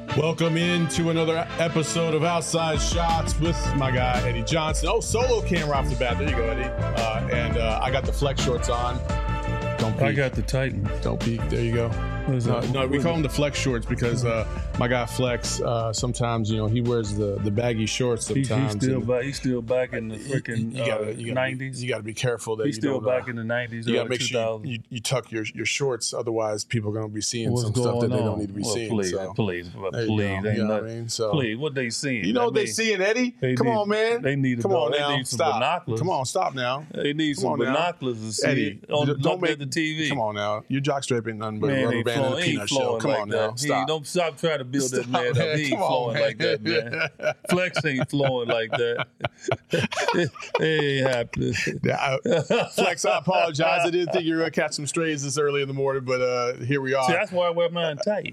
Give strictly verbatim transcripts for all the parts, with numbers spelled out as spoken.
Welcome into another episode of Outside Shots with my guy, Eddie Johnson. Oh, solo camera off the bat. There you go, Eddie. Uh, and uh, I got the flex shorts on. Don't peek. I got the Titan. Don't peek. There you go. Uh, no, we call them the flex shorts because uh, my guy Flex, uh, sometimes, you know, he wears the, the baggy shorts sometimes. He's still, back, he's still back in the freaking you, you gotta, uh, you gotta nineties. Be, you got to be careful that he's you still don't, back uh, in the nineties. You got to make sure you, you tuck your, your shorts. Otherwise, people are going to be seeing What's some stuff that on? they don't need to be well, seeing. Please, so. please, please, please. ain't You know not, what I mean? So, please, what they seeing? You know what they seeing, Eddie? Come need, on, man. They need Come on they now. Need some Stop. binoculars. Come on, stop now. They need Come some on now. binoculars to see Eddie, on don't don't make at the T V. Come on now. Your jockstrap ain't nothing but man, a rubber ain't band flowing, and a peanut ain't shell. Come like on that. now. He, Stop. don't stop trying to build Stop, that man, man. up. He ain't Come on, flowing man. like that, man. Flex ain't flowing like that. It ain't happening. Yeah, I, Flex, I apologize. I didn't think you were going to catch some strays this early in the morning, but uh, here we are. See, that's why I wear mine tight.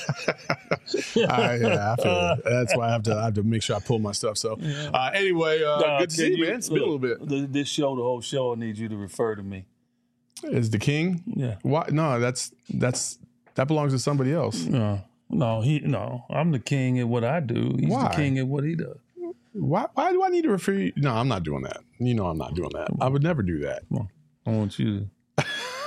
I, yeah, I feel it. That's why I have to I have to make sure I pull my stuff. So, uh, anyway, uh, Nah, good to see you, you, man. It's been a little bit. th- This show, the whole show, I need you to refer to me. Is the king? Yeah. Why? No, that's that's that belongs to somebody else. No, no, he no. I'm the king at what I do. He's Why? the king at what he does. Why? Why do I need to refer you? No, I'm not doing that. You know, I'm not doing that. I would never do that. Come on. I want you to.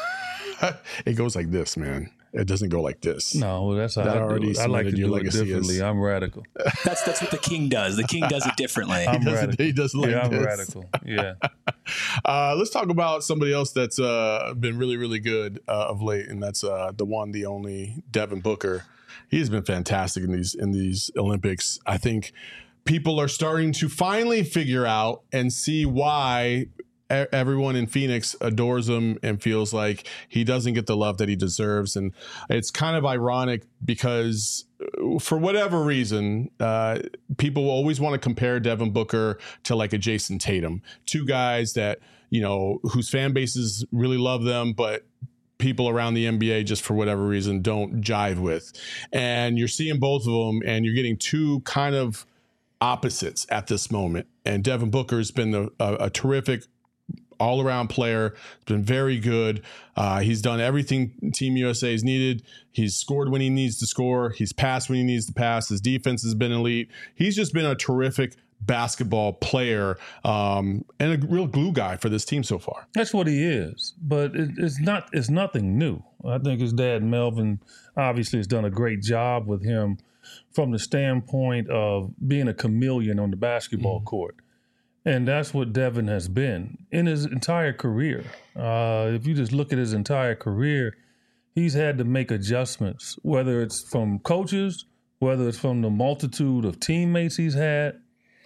It goes like this, man. It doesn't go like this. No, well, that's how That I already do it. I like to cemented your do it legacy differently. as- I'm radical. That's that's what the king does. The king does it differently. I'm He doesn't, radical. he doesn't like yeah, I'm this. radical. Yeah. Uh, let's talk about somebody else that's uh, been really, really good uh, of late, and that's uh, the one, the only Devin Booker. He's been fantastic in these in these Olympics. I think people are starting to finally figure out and see why e- everyone in Phoenix adores him and feels like he doesn't get the love that he deserves. And it's kind of ironic because uh, for whatever reason, uh, people always want to compare Devin Booker to like a Jason Tatum, two guys that, you know, whose fan bases really love them, but people around the N B A just for whatever reason don't jive with. And you're seeing both of them and you're getting two kind of opposites at this moment. And Devin Booker has been a, a, a terrific all-around player. He's been very good. Uh, he's done everything Team U S A has needed. He's scored when he needs to score. He's passed when he needs to pass. His defense has been elite. He's just been a terrific basketball player um, and a real glue guy for this team so far. That's what he is, but it, it's not. It's nothing new. I think his dad Melvin obviously has done a great job with him from the standpoint of being a chameleon on the basketball mm-hmm. court, and that's what Devin has been in his entire career. Uh, if you just look at his entire career, he's had to make adjustments, whether it's from coaches, whether it's from the multitude of teammates he's had.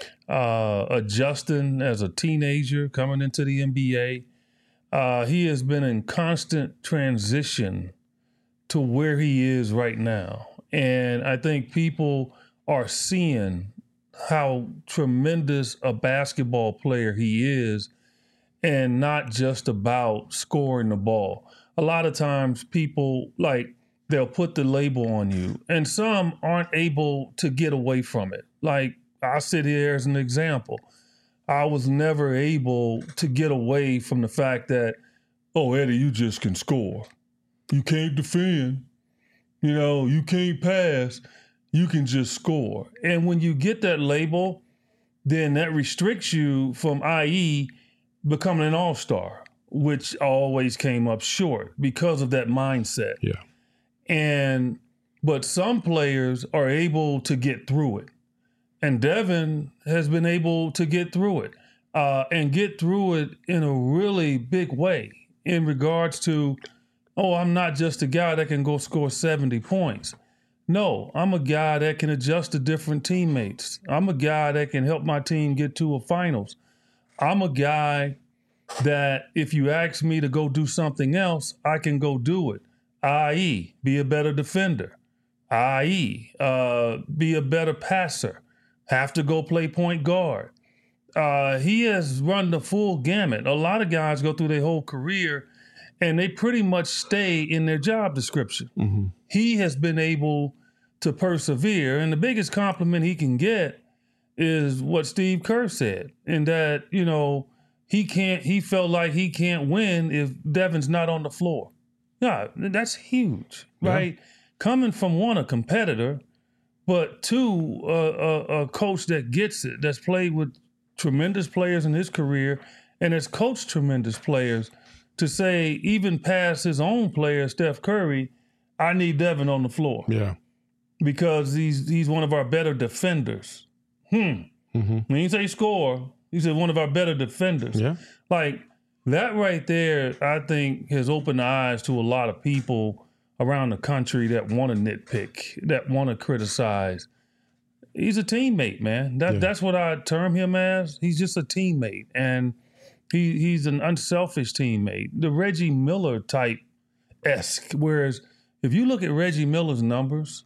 Uh, adjusting as a teenager coming into the N B A. Uh, he has been in constant transition to where he is right now. And I think people are seeing how tremendous a basketball player he is and not just about scoring the ball. A lot of times people, like, they'll put the label on you, and some aren't able to get away from it. Like, I'll sit here as an example. I was never able to get away from the fact that, oh, Eddie, you just can score. You can't defend. You know, you can't pass. You can just score. And when you get that label, then that restricts you from, that is, becoming an all-star, which always came up short because of that mindset. Yeah. And, but some players are able to get through it. And Devin has been able to get through it uh, and get through it in a really big way in regards to, oh, I'm not just a guy that can go score seventy points. No, I'm a guy that can adjust to different teammates. I'm a guy that can help my team get to a finals. I'm a guy that if you ask me to go do something else, I can go do it, that is, be a better defender, that is, uh, be a better passer. Have to go play point guard. Uh, he has run the full gamut. A lot of guys go through their whole career and they pretty much stay in their job description. Mm-hmm. He has been able to persevere. And the biggest compliment he can get is what Steve Kerr said, in that, you know, he can't, he felt like he can't win if Devin's not on the floor. Yeah, that's huge, right? Yeah. Coming from one, a competitor, but two, uh, a, a coach that gets it, that's played with tremendous players in his career and has coached tremendous players, to say, even past his own player, Steph Curry, I need Devin on the floor. Yeah. Because he's he's one of our better defenders. Hmm. Mm-hmm. When he say score, he said one of our better defenders. Yeah. Like, that right there, I think, has opened the eyes to a lot of people around the country that want to nitpick, that want to criticize. He's a teammate, man. That Yeah. That's what I term him as. He's just a teammate. And he he's an unselfish teammate. The Reggie Miller type-esque. Whereas if you look at Reggie Miller's numbers,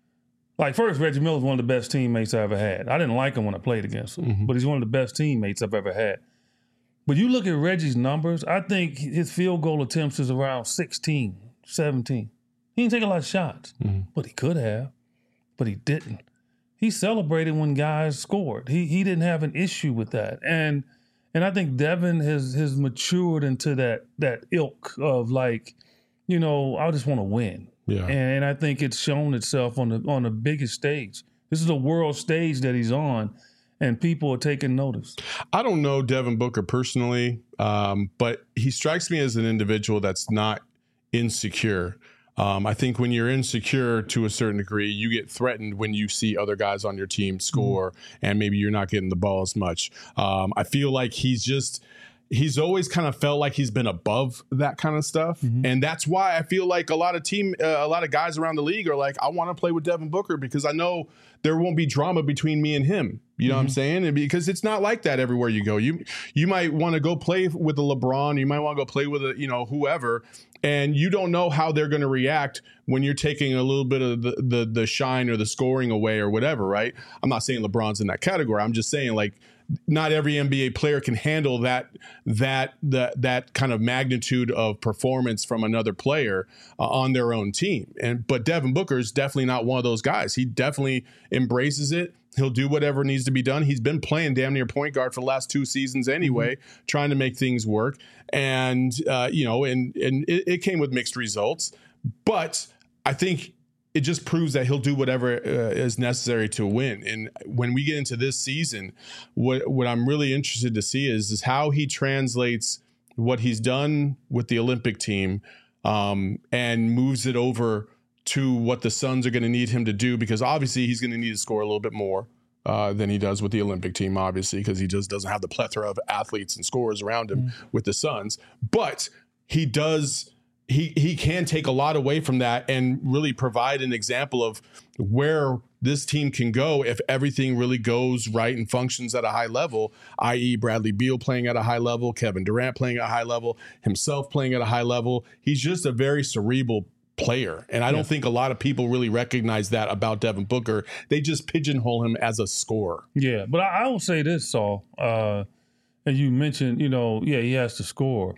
like, first, Reggie Miller's one of the best teammates I ever had. I didn't like him when I played against him, mm-hmm. but he's one of the best teammates I've ever had. But you look at Reggie's numbers, I think his field goal attempts is around sixteen, seventeen. He didn't take a lot of shots, mm-hmm. but he could have, but he didn't. He celebrated when guys scored. He he didn't have an issue with that. And and I think Devin has has matured into that that ilk of, like, you know, I just want to win. Yeah. And I think it's shown itself on the on the biggest stage. This is a world stage that he's on, and people are taking notice. I don't know Devin Booker personally, um, but he strikes me as an individual that's not insecure. Um, I think when you're insecure to a certain degree, you get threatened when you see other guys on your team score, mm-hmm. and maybe you're not getting the ball as much. Um, I feel like he's just... He's always kind of felt like he's been above that kind of stuff. Mm-hmm. And that's why I feel like a lot of team, uh, a lot of guys around the league are like, I want to play with Devin Booker because I know there won't be drama between me and him. You know mm-hmm. what I'm saying? And because it's not like that everywhere you go. You you might want to go play with a LeBron. You might want to go play with a, you know, whoever. And you don't know how they're going to react when you're taking a little bit of the, the the shine or the scoring away or whatever, right? I'm not saying LeBron's in that category. I'm just saying, like, not every N B A player can handle that that that that kind of magnitude of performance from another player uh, on their own team. And but Devin Booker is definitely not one of those guys. He definitely embraces it. He'll do whatever needs to be done. He's been playing damn near point guard for the last two seasons anyway, mm-hmm. trying to make things work. And uh, you know, and and it, it came with mixed results. But I think it just proves that he'll do whatever uh, is necessary to win. And when we get into this season, what what I'm really interested to see is, is how he translates what he's done with the Olympic team um, and moves it over to what the Suns are going to need him to do, because obviously he's going to need to score a little bit more uh, than he does with the Olympic team, obviously, because he just doesn't have the plethora of athletes and scorers around him mm. with the Suns. But he does... He he can take a lot away from that and really provide an example of where this team can go if everything really goes right and functions at a high level, that is. Bradley Beal playing at a high level, Kevin Durant playing at a high level, himself playing at a high level. He's just a very cerebral player. And I don't yeah. think a lot of people really recognize that about Devin Booker. They just pigeonhole him as a scorer. Yeah, but I, I will say this, Saul. Uh, and you mentioned, you know, yeah, he has to score.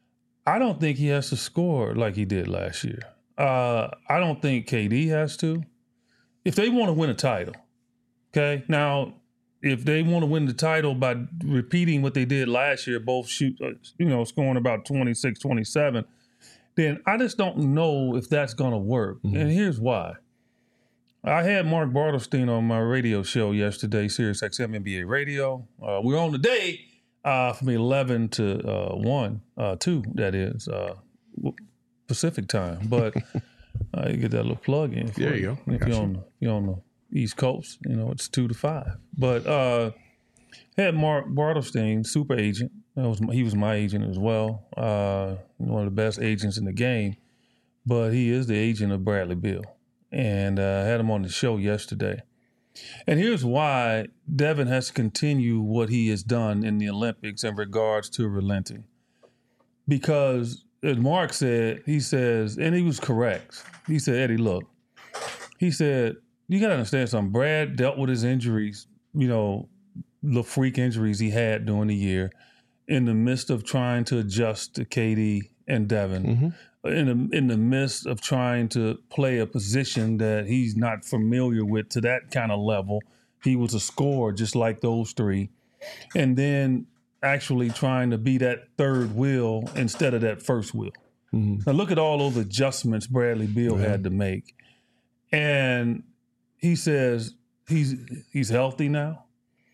I don't think he has to score like he did last year. Uh, I don't think K D has to. If they want to win a title, okay? Now, if they want to win the title by repeating what they did last year, both shoot, uh, you know, scoring about twenty-six, twenty-seven, then I just don't know if that's going to work. Mm-hmm. And here's why. I had Mark Bartelstein on my radio show yesterday, Sirius X M N B A Radio. Uh, we're on today. Uh, from eleven to uh, one, uh, two, that is, uh, Pacific time. But uh, you get that little plug in. There you go. If you're, on, if you're on the East Coast, you know, it's two to five. But uh, had Mark Bartelstein, super agent. That was, he was my agent as well. Uh, one of the best agents in the game. But he is the agent of Bradley Beal. And I uh, had him on the show yesterday. And here's why Devin has to continue what he has done in the Olympics in regards to relenting. Because, as Mark said, he says, and he was correct. He said, Eddie, look, he said, you got to understand something. Brad dealt with his injuries, you know, the freak injuries he had during the year in the midst of trying to adjust to K D and Devin. Mm-hmm. In the, in the midst of trying to play a position that he's not familiar with to that kind of level. He was a scorer just like those three. And then actually trying to be that third wheel instead of that first wheel. Mm-hmm. Now look at all those adjustments Bradley Beal yeah. had to make. And he says he's he's healthy now.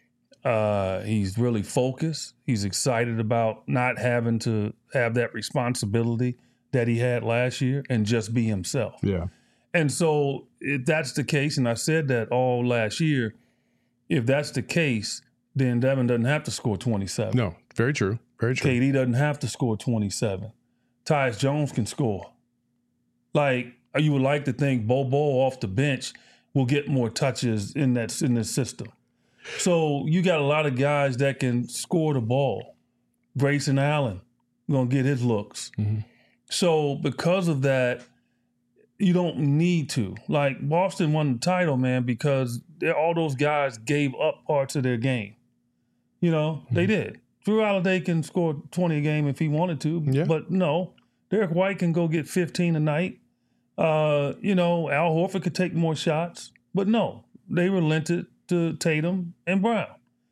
Uh, he's really focused. He's excited about not having to have that responsibility that he had last year and just be himself. Yeah. And so if that's the case, and I said that all last year, if that's the case, then Devin doesn't have to score twenty-seven. No, very true. Very true. K D doesn't have to score twenty-seven. Tyus Jones can score. Like, you would like to think Bobo off the bench will get more touches in that in this system. So you got a lot of guys that can score the ball. Grayson Allen gonna get his looks. Mm-hmm. So because of that, you don't need to. Like, Boston won the title, man, because all those guys gave up parts of their game. You know, mm-hmm. they did. Drew Holiday can score twenty a game if he wanted to, yeah. but no. Derek White can go get fifteen a night. Uh, you know, Al Horford could take more shots, but no, they relented to Tatum and Brown,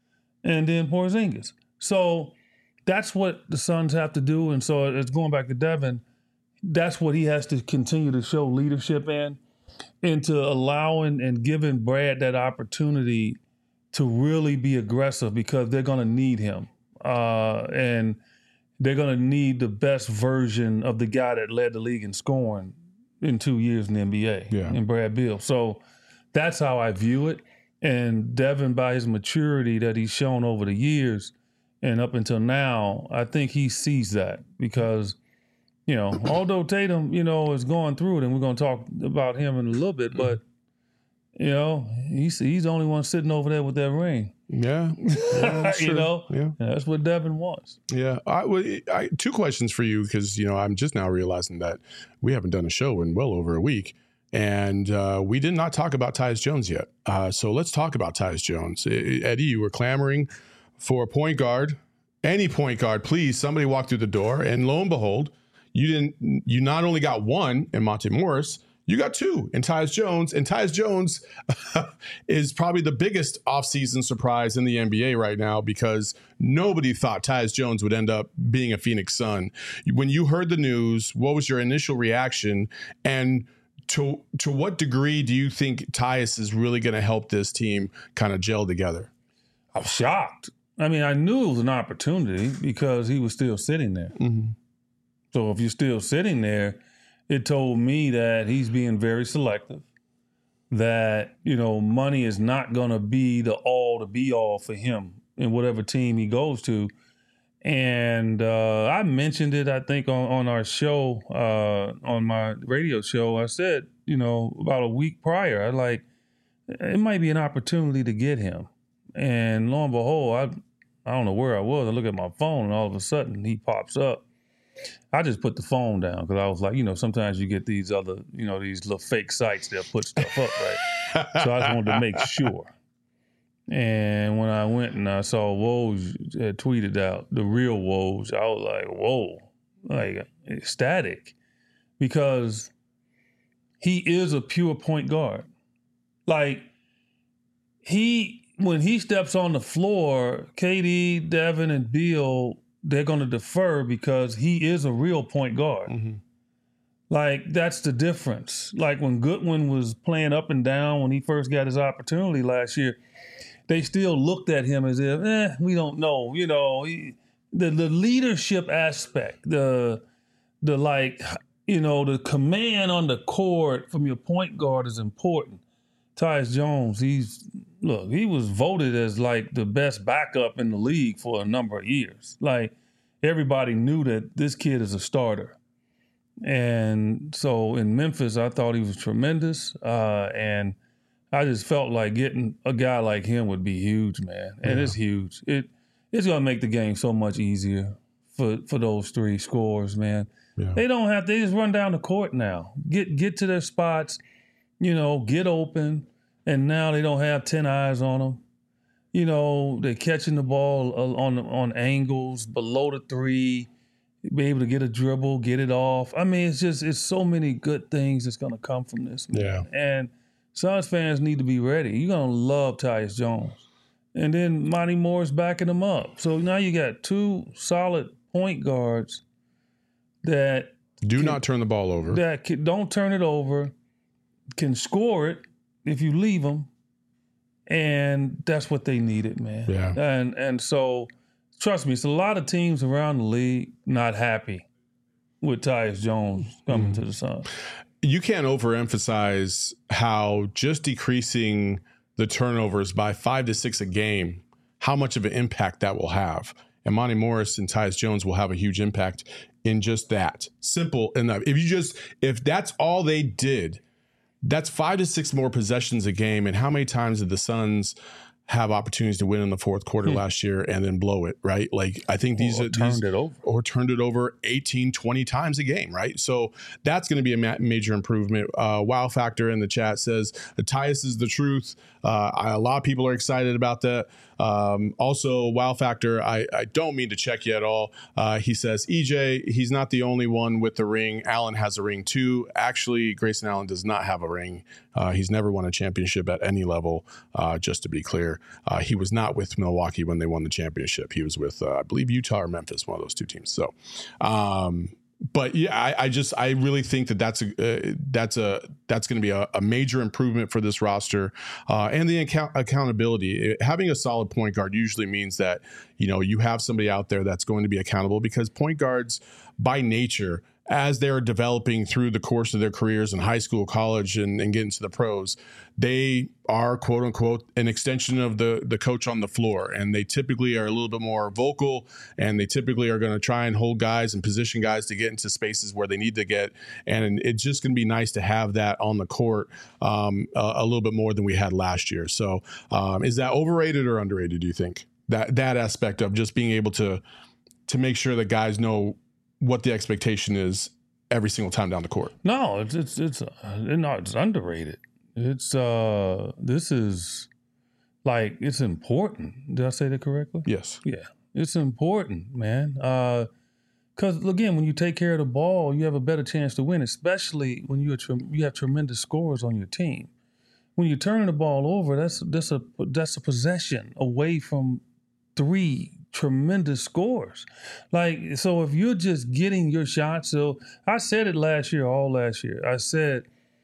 and then Porzingis. So that's what the Suns have to do. And so it's going back to Devin. That's what he has to continue to show leadership in, into allowing and giving Brad that opportunity to really be aggressive, because they're going to need him. Uh, and they're going to need the best version of the guy that led the league in scoring in two years in the N B A, yeah. in Brad Beal. So that's how I view it. And Devin, by his maturity that he's shown over the years and up until now, I think he sees that, because, you know, although Tatum, you know, is going through it, and we're going to talk about him in a little bit, but, you know, he's, he's the only one sitting over there with that ring. Yeah. yeah you know? Yeah. And that's what Devin wants. Yeah. I, I, two questions for you, because, you know, I'm just now realizing that we haven't done a show in well over a week. And uh, we did not talk about Tyus Jones yet. Uh, so let's talk about Tyus Jones. Eddie, you were clamoring for a point guard, any point guard, please. Somebody walk through the door. And lo and behold, you didn't. You not only got one in Monte Morris, you got two in Tyus Jones. And Tyus Jones is probably the biggest offseason surprise in the N B A right now, because nobody thought Tyus Jones would end up being a Phoenix Sun. When you heard the news, what was your initial reaction? And To to what degree do you think Tyus is really going to help this team kind of gel together? I was shocked. I mean, I knew it was an opportunity because he was still sitting there. Mm-hmm. So if you're still sitting there, it told me that he's being very selective, that, you know, money is not going to be the all to be all for him in whatever team he goes to. And uh, I mentioned it, I think, on, on our show, uh, on my radio show. I said, you know, about a week prior, I like, it might be an opportunity to get him. And lo and behold, I, I don't know where I was. I look at my phone, and all of a sudden he pops up. I just put the phone down, because I was like, you know, sometimes you get these other, you know, these little fake sites that put stuff up, right? So I just wanted to make sure. And when I went and I saw Woj had tweeted out the real Woj, I was like, whoa, like ecstatic, because he is a pure point guard. Like, he, when he steps on the floor, K D, Devin, and Beal, they're going to defer, because he is a real point guard. Mm-hmm. Like, that's the difference. Like, when Goodwin was playing up and down when he first got his opportunity last year, they still looked at him as if, eh, we don't know. You know, he, the the leadership aspect, the the like, you know, the command on the court from your point guard is important. Tyus Jones, he's, look, he was voted as like the best backup in the league for a number of years. Like, everybody knew that this kid is a starter. And so in Memphis, I thought he was tremendous. Uh, and I just felt like getting a guy like him would be huge, man. And yeah. It's huge. It It's going to make the game so much easier for, for those three scorers, man. Yeah. They don't have, they just run down the court now. Get get to their spots, you know, get open, and now they don't have ten eyes on them. You know, they're catching the ball on on angles below the three, be able to get a dribble, get it off. I mean, it's just, it's so many good things that's going to come from this, man. Yeah. And Suns fans need to be ready. You're going to love Tyus Jones. And then Monty Morris backing him up. So now you got two solid point guards that do can, not turn the ball over. That can, don't turn it over, can score it, if you leave them, and that's what they needed, man. Yeah. And and so, trust me, it's a lot of teams around the league not happy with Tyus Jones coming mm. to the Suns. You can't overemphasize how just decreasing the turnovers by five to six a game, how much of an impact that will have. And Monty Morris and Tyus Jones will have a huge impact in just that. Simple enough. If you just, if that's all they did, that's five to six more possessions a game. And how many times did the Suns have opportunities to win in the fourth quarter hmm. last year and then blow it, right? Like, I think these or are turned these, it over or turned it over eighteen, twenty times a game, right? So that's going to be a ma- major improvement. Uh, Wow Factor in the chat says the Tyus is the truth. Uh, I, a lot of people are excited about that. Um, also, Wow Factor, I, I don't mean to check you at all. Uh, he says, E J, he's not the only one with the ring. Allen has a ring too. Actually, Grayson Allen does not have a ring. Uh, he's never won a championship at any level, uh, just to be clear. Uh, he was not with Milwaukee when they won the championship. He was with, uh, I believe, Utah or Memphis, one of those two teams. So, um, but yeah, I, I just I really think that that's a uh, that's a that's going to be a, a major improvement for this roster, uh, and the account- accountability. It, having a solid point guard usually means that you know you have somebody out there that's going to be accountable, because point guards by nature, as they're developing through the course of their careers in high school, college, and, and getting to the pros, they are, quote unquote, an extension of the, the coach on the floor. And they typically are a little bit more vocal, and they typically are going to try and hold guys and position guys to get into spaces where they need to get. And it's just going to be nice to have that on the court um, a, a little bit more than we had last year. So um, is that overrated or underrated, do you think? That that aspect of just being able to to make sure that guys know what the expectation is every single time down the court. No, it's it's it's uh, no, it's underrated. It's uh, this is like it's important. Did I say that correctly? Yes. Yeah, it's important, man. Uh, because again, when you take care of the ball, you have a better chance to win, especially when you you have tremendous scorers on your team. When you turn the ball over, that's that's a that's a possession away from three tremendous scores. Like, so if you're just getting your shots, so I said it last year, all last year, I said,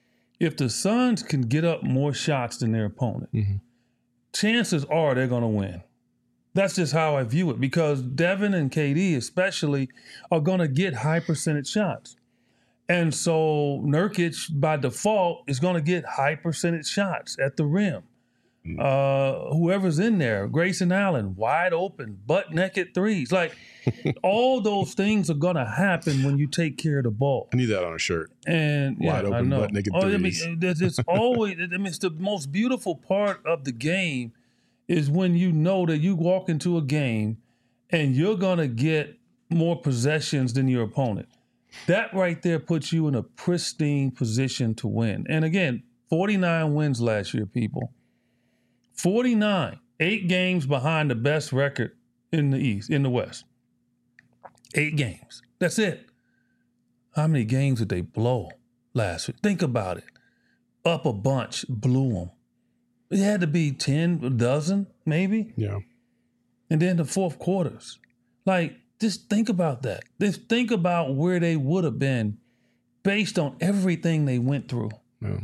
if the Suns can get up more shots than their opponent, mm-hmm. chances are they're going to win. That's just how I view it, because Devin and K D especially are going to get high percentage shots. And so Nurkic, by default, is going to get high percentage shots at the rim. Uh, whoever's in there, Grayson Allen, wide open, butt naked threes. Like, all those things are going to happen when you take care of the ball. I need that on a shirt. And wide yeah, open, I know. butt naked oh, threes. I mean, it's always, I mean, it's the most beautiful part of the game is when you know that you walk into a game and you're going to get more possessions than your opponent. That right there puts you in a pristine position to win. And again, forty-nine wins last year, people. forty-nine, eight games behind the best record in the East, in the West. Eight games. That's it. How many games did they blow last week? Think about it. Up a bunch, blew them. It had to be ten, a dozen, maybe. Yeah. And then the fourth quarters. Like, just think about that. Just think about where they would have been based on everything they went through. Yeah.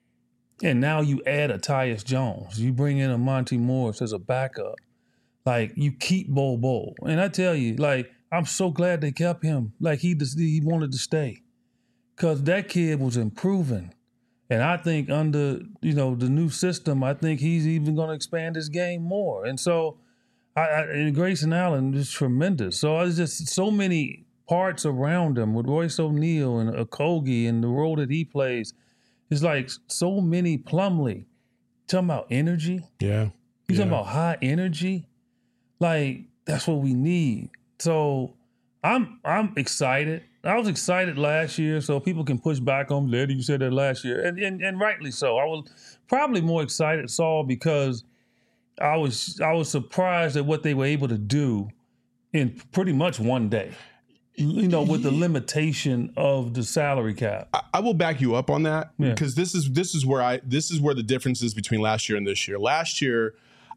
And now you add a Tyus Jones. You bring in a Monty Morris as a backup. Like, you keep Bol Bol. And I tell you, like, I'm so glad they kept him. Like, he just, he wanted to stay. Because that kid was improving. And I think under, you know, the new system, I think he's even going to expand his game more. And so, I, I, and Grayson Allen is tremendous. So it's just so many parts around him with Royce O'Neal and Okogie and the role that he plays. It's like so many Plumlee. Talking about energy. Yeah. You yeah. talking about high energy. Like, that's what we need. So I'm I'm excited. I was excited last year, so people can push back on me. You said that last year. And, and and rightly so. I was probably more excited, Saul, because I was I was surprised at what they were able to do in pretty much one day. You know, with the limitation of the salary cap. I, I will back you up on that yeah. because this is this is where I this is where the difference is between last year and this year. Last year,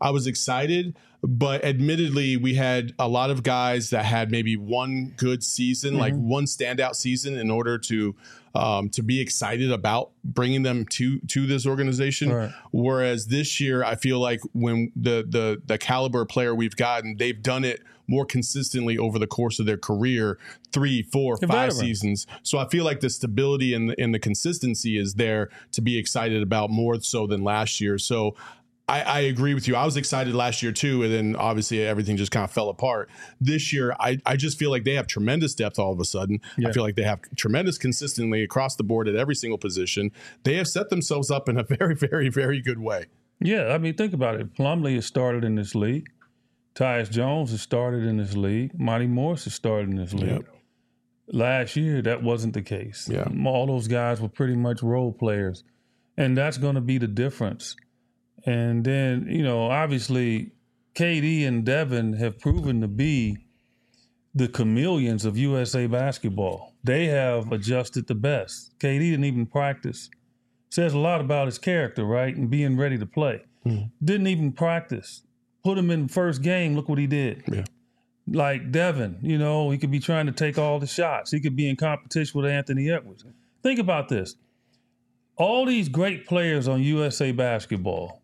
I was excited, but admittedly, we had a lot of guys that had maybe one good season, mm-hmm. like one standout season, in order to um, to be excited about bringing them to to this organization. Right. Whereas this year, I feel like when the the the caliber player we've gotten, they've done it more consistently over the course of their career, three, four, five veteran. seasons. So I feel like the stability and the, and the consistency is there to be excited about more so than last year. So I, I agree with you. I was excited last year too, and then obviously everything just kind of fell apart. This year, I, I just feel like they have tremendous depth all of a sudden. Yeah. I feel like they have tremendous consistently across the board at every single position. They have set themselves up in a very, very, very good way. Yeah, I mean, think about it. Plumlee has started in this league. Tyus Jones has started in this league. Monty Morris has started in this league. Yep. Last year, that wasn't the case. Yeah. All those guys were pretty much role players. And that's going to be the difference. And then, you know, obviously, K D and Devin have proven to be the chameleons of U S A basketball. They have adjusted the best. K D didn't even practice. Says a lot about his character, right? And being ready to play. Mm. Didn't even practice. Put him in the first game, look what he did. Yeah. Like Devin, you know, he could be trying to take all the shots. He could be in competition with Anthony Edwards. Think about this. All these great players on U S A basketball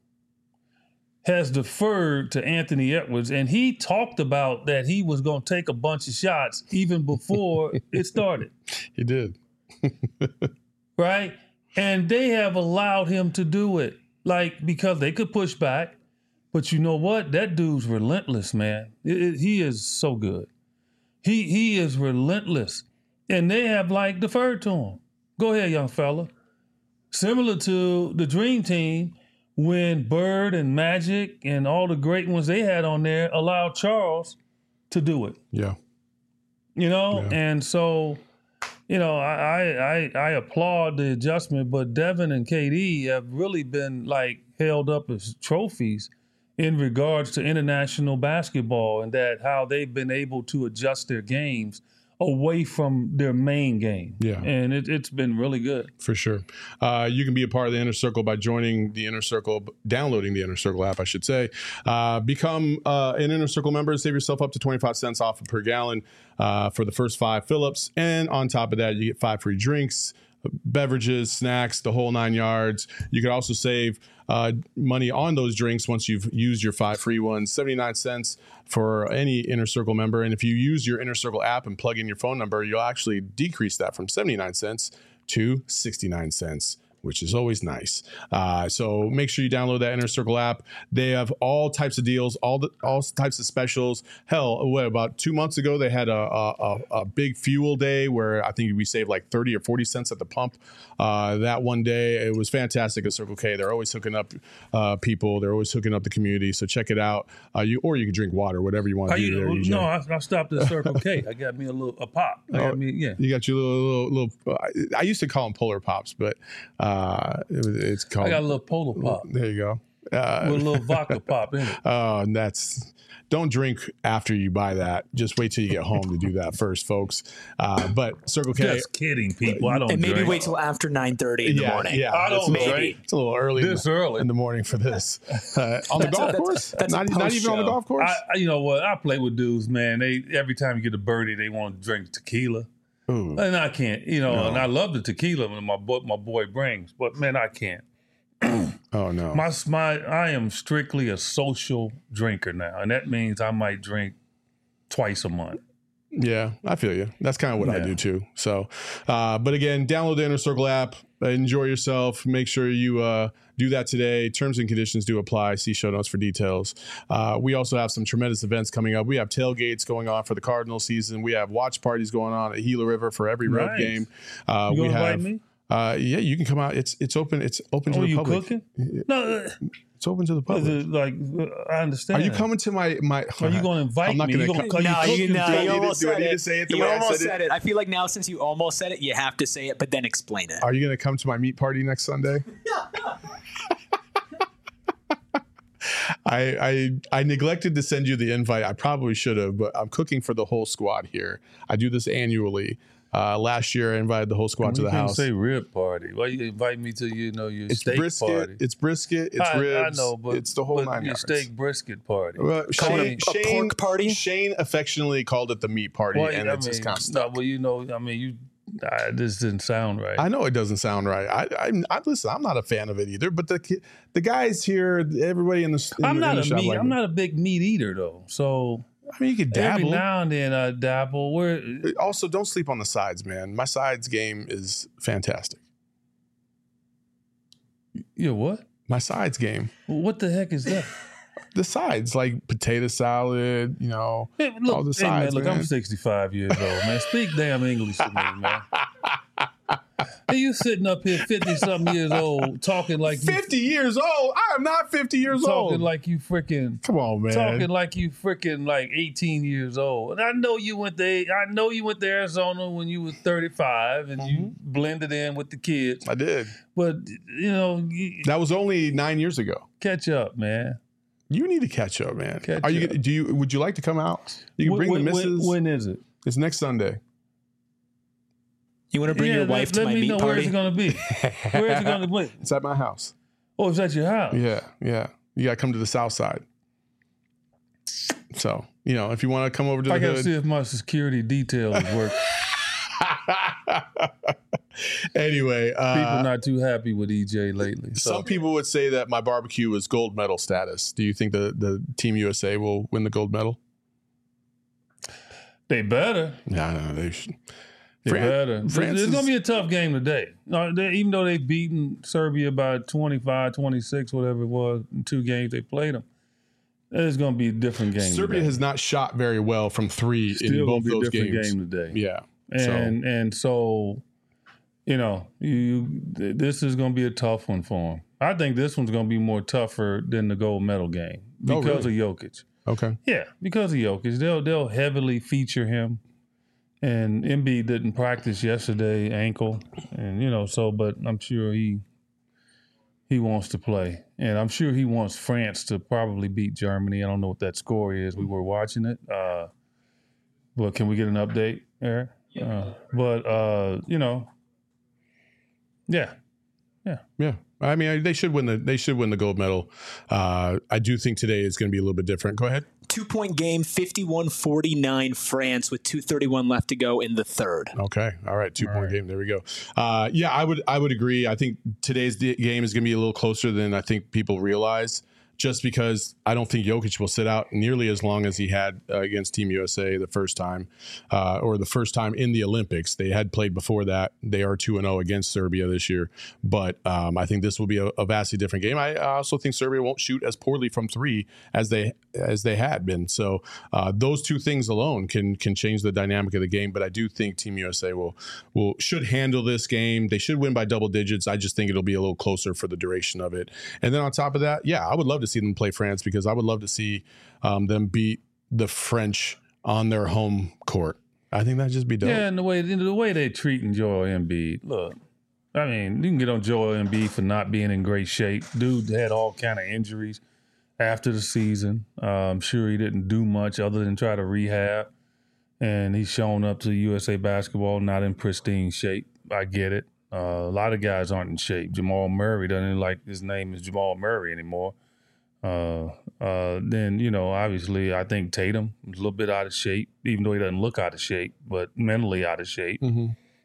has deferred to Anthony Edwards, and he talked about that he was going to take a bunch of shots even before it started. He did. Right? And they have allowed him to do it, like, because they could push back. But you know what? That dude's relentless, man. It, it, he is so good. He he is relentless. And they have, like, deferred to him. Go ahead, young fella. Similar to the Dream Team, when Bird and Magic and all the great ones they had on there allowed Charles to do it. Yeah. You know? Yeah. And so, you know, I, I I applaud the adjustment, but Devin and K D have really been, like, held up as trophies in regards to international basketball, and that how they've been able to adjust their games away from their main game. Yeah. And it, it's been really good. For sure. Uh, you can be a part of the Inner Circle by joining the Inner Circle, downloading the Inner Circle app, I should say. Uh, become uh, an Inner Circle member, save yourself up to twenty-five cents off per gallon uh, for the first five fill-ups. And on top of that, you get five free drinks, beverages, snacks, the whole nine yards. You can also save uh, money on those drinks once you've used your five free ones, seventy-nine cents for any Inner Circle member. And if you use your Inner Circle app and plug in your phone number, you'll actually decrease that from seventy-nine cents to sixty-nine cents. Which is always nice. Uh, so make sure you download that Inner Circle app. They have all types of deals, all the all types of specials. Hell, what, about two months ago, they had a, a, a big fuel day where I think we saved like thirty or forty cents at the pump uh, that one day. It was fantastic at Circle K. They're always hooking up uh, people. They're always hooking up the community. So check it out. Uh, you Or you can drink water, whatever you want to do you, there. E J. No, I, I stopped at Circle K. I got me a little a pop. I got oh, me, yeah. You got your little, little, little I used to call them Polar Pops, but uh, it was, it's called. I got a little Polar Pop. There you go. Uh, With a little vodka pop in it. Oh, and that's don't drink after you buy that. Just wait till you get home to do that first, folks. Uh, but Circle K. Just kidding, people. I don't. And maybe drink. wait till after nine thirty in yeah, the morning. Yeah, I don't maybe. drink. It's a little early. This in the, early in the morning for this. Uh, on the That's golf a- course? that's- that's a not, not even on the post-show. golf course. I, you know what? I play with dudes, man. They every time you get a birdie, they want to drink tequila. Ooh. And I can't, you know, No. and I love the tequila that my boy, my boy brings, but man, I can't. Oh no. My, my, I am strictly a social drinker now, and that means I might drink twice a month. Yeah, I feel you. That's kind of what I Yeah. do too. So, uh, but again, download the Inner Circle app. Enjoy yourself. Make sure you uh, do that today. Terms and conditions do apply. See show notes for details. Uh, we also have some tremendous events coming up. We have tailgates going on for the Cardinal season. We have watch parties going on at Gila River for every road Nice. game. Uh, You we gonna have. invite me? Uh, yeah, you can come out. It's it's open. It's open to Oh, the you public. cooking? No, uh, It's open to the is public. it like uh, I understand. Are you coming to my my? Are you going to invite I'm not me? gonna You gonna, co- are you No, you, cooking no, for you me? almost do I said need to it. say it the You way I almost said it? said it. I feel like now, since you almost said it, you have to say it, but then explain it. Are you going to come to my meat party next Sunday? I, I I neglected to send you the invite. I probably should have, but I'm cooking for the whole squad here. I do this annually. Uh, last year, I invited the whole squad to You the can't house. say rib party. Why you invite me to you know your It's steak brisket. party? It's brisket. It's I, ribs. I know, but it's the whole but nine your yards. steak brisket party. Well, Call Shane, it a Shane, pork party? Shane affectionately called it the meat party, Well, and I it's mean, just kind of no, stuck. well, you know, I mean, you. I, this didn't sound right. I know it doesn't sound right. I, I, I listen. I'm not a fan of it either. But the the guys here, everybody in the, in I'm the, not in the a shop meat. like I'm it. not a big meat eater though. So I mean, you could every dabble. now and then I dabble. Where Also, don't sleep on the sides, man. My sides game is fantastic. you know what? My sides game. What the heck is that? The sides, like potato salad, you know, Hey, look, all the hey, man, sides, look, man. I'm sixty-five years old, man. Speak damn English to me, man. Hey, you sitting up here fifty-something years old talking like you fifty years old. I am not fifty years talking old. like you freaking Come on, man. talking like you freaking like eighteen years old. And I know you went to I know you went to Arizona when you were thirty-five and you Mhm. blended in with the kids. I did. But you know, you, That was only nine years ago. catch up, man. You need to catch up, man. Catch Are you? up. Do you? Would you like to come out? You can When- bring when, the missus. when, when is it? It's next Sunday. You want to bring yeah, your let, wife to let my me meat know party? where it's gonna be. Where is it gonna be? It's at my house. Oh, it's at your house. Yeah, yeah. You got to come to the south side. So, you know, if you want to come over to the I gotta hood. see if my security details work. Anyway, uh, People not too happy with E J lately. So. some people would say that my barbecue is gold medal status. Do you think the, the Team U S A will win the gold medal? They better. No, no, they should. They Fran- better. It's- France it's going is- to be a tough game today. No, they, even though they've beaten Serbia by twenty-five, twenty-six, whatever it was, in two games they played them, it's going to be a different game Serbia today. has not shot very well from three Still in gonna both be a those different games. game today. Yeah. And, and so, you know, you this is going to be a tough one for them. I think this one's going to be more tougher than the gold medal game Oh, because really? of Jokic. Okay. Yeah, because of Jokic. They'll they'll heavily feature him. And Embiid didn't practice yesterday, ankle. And you know, so but I'm sure he he wants to play. And I'm sure he wants France to probably beat Germany. I don't know what that score is. We were watching it. Uh but can we get an update, Eric? Uh, but uh, you know, yeah. Yeah. I mean, they should win the they should win the gold medal. Uh, I do think today is going to be a little bit different. Go ahead. Two-point game, fifty-one forty-nine France with two thirty-one left to go in the third. Okay. All right. Two All point right. game. There we go. Uh, yeah, I would I would agree. I think today's d- game is going to be a little closer than I think people realize. Just because I don't think Jokic will sit out nearly as long as he had uh, against Team U S A the first time, uh, or the first time in the Olympics. They had played before that. They are two and zero against Serbia this year, but um, I think this will be a, a vastly different game. I also think Serbia won't shoot as poorly from three as they as they had been. So uh, those two things alone can can change the dynamic of the game. But I do think Team U S A will will should handle this game. They should win by double digits. I just think it'll be a little closer for the duration of it. And then on top of that, yeah, I would love to see them play France because I would love to see um, them beat the French on their home court. I think that'd just be dope. Yeah, and the way the way they're treating Joel Embiid. Look, I mean, you can get on Joel Embiid for not being in great shape. Dude had all kind of injuries after the season. Uh, I'm sure he didn't do much other than try to rehab. And he's shown up to U S A basketball not in pristine shape. I get it. Uh, a lot of guys aren't in shape. Jamal Murray doesn't even like his name is Jamal Murray anymore. Uh, uh, then, you know, obviously I think Tatum is a little bit out of shape, even though he doesn't look out of shape, but mentally out of shape. Mm-hmm.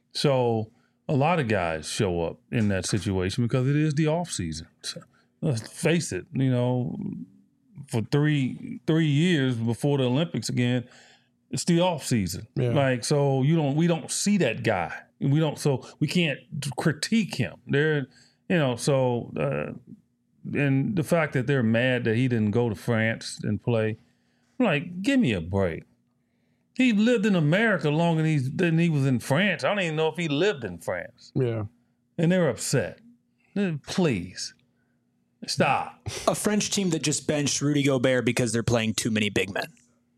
So a lot of guys show up in that situation because it is the off season. So, let's face it, you know, for three three years before the Olympics again, it's the off season. Yeah. Like, so you don't we don't see that guy. We don't so we can't critique him. They're you know, so uh, and the fact that they're mad that he didn't go to France and play, I'm like, give me a break. He lived in America longer than, he's, than he was in France. I don't even know if he lived in France. Yeah. And they're upset. Please, stop. A French team that just benched Rudy Gobert because they're playing too many big men.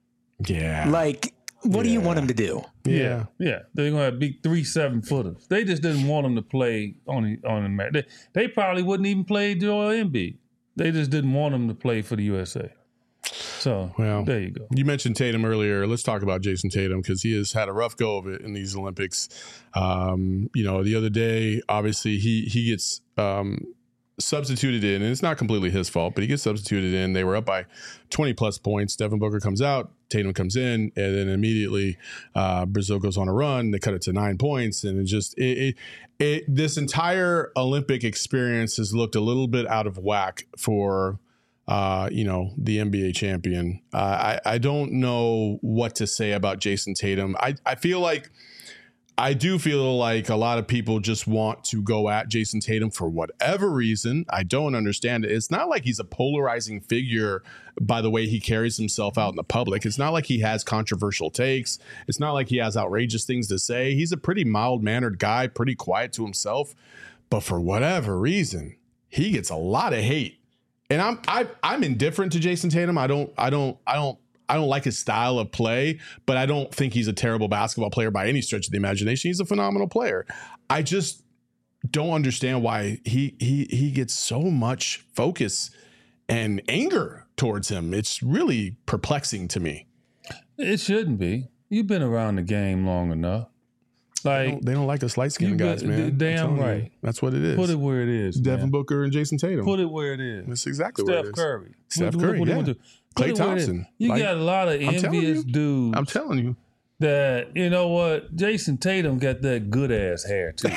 Yeah. Like, what do you Yeah. want them to do? Yeah. Yeah. They're going to beat three seven footers. They just didn't want him to play on the, on America. They, they probably wouldn't even play Joel Embiid. They just didn't want him to play for the U S A. So Well, there you go. You mentioned Tatum earlier. Let's talk about Jason Tatum because he has had a rough go of it in these Olympics. Um, you know, the other day, obviously, he he gets um, substituted in, and it's not completely his fault, but he gets substituted in. They were up by twenty plus points. Devin Booker comes out, Tatum comes in, and then immediately uh, Brazil goes on a run. They cut it to nine points, and it just it, it, it this entire Olympic experience has looked a little bit out of whack for. Uh, you know, the N B A champion. Uh, I, I don't know what to say about Jason Tatum. I, I feel like I do feel like a lot of people just want to go at Jason Tatum for whatever reason. I don't understand it. It's not like he's a polarizing figure by the way he carries himself out in the public. It's not like he has controversial takes. It's not like he has outrageous things to say. He's a pretty mild-mannered guy, pretty quiet to himself. But for whatever reason, he gets a lot of hate. And I'm I, I'm indifferent to Jason Tatum. I don't I don't I don't I don't like his style of play, but I don't think he's a terrible basketball player by any stretch of the imagination. He's a phenomenal player. I just don't understand why he he he gets so much focus and anger towards him. It's really perplexing to me. It shouldn't be. You've been around the game long enough. Like They don't, they don't like us light-skinned guys, been- man. I'm damn telling you. right. That's what it is. put it where it is. Devin man. Booker and Jason Tatum. Put it where it is. That's exactly what it Steph is. Curry. Steph What- Curry, what do you yeah. want to do? Put Klay it where it is. Thompson. You Like, got a lot of I'm telling envious you. dudes I'm telling you. that, you know what, Jason Tatum got that good ass hair too.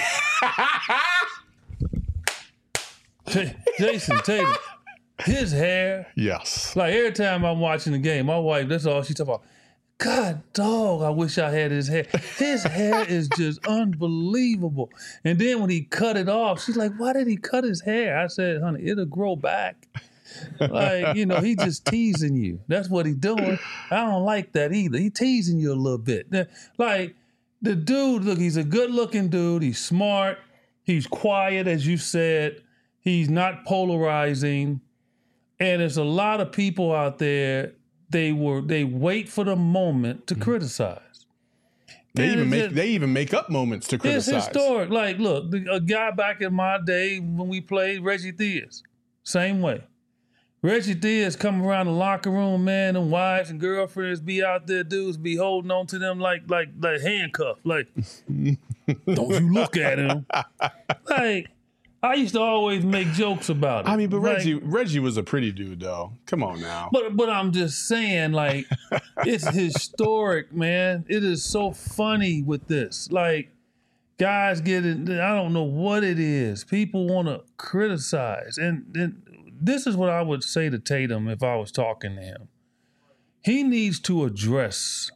J- Jason Tatum, his hair, Yes. like every time I'm watching the game, my wife, that's all she talk about. God, dog, I wish I had his hair. His hair is just unbelievable. And then when he cut it off, she's like, why did he cut his hair? I said, honey, it'll grow back. Like, you know, he just teasing you. That's what he doing. I don't like that either. He teasing you a little bit. Like, the dude, look, he's a good-looking dude. He's smart. He's quiet, as you said. He's not polarizing. And there's a lot of people out there, they were they wait for the moment to criticize. They And even it's make just- they even make up moments to It's criticize. historic. Like, look, the, a guy back in my day when we played, Reggie Theus, same way. Reggie Theus come around the locker room, man, and wives and girlfriends be out there, dudes be holding on to them like like like handcuffed. Like, don't you look at him. Like, I used to always make jokes about it. I mean, but Like, Reggie Reggie was a pretty dude, though. Come on now. But but I'm just saying, like, it's historic, man. It is so funny with this. Like, guys get it. I don't know what it is. People want to criticize, and, and this is what I would say to Tatum if I was talking to him. He needs to address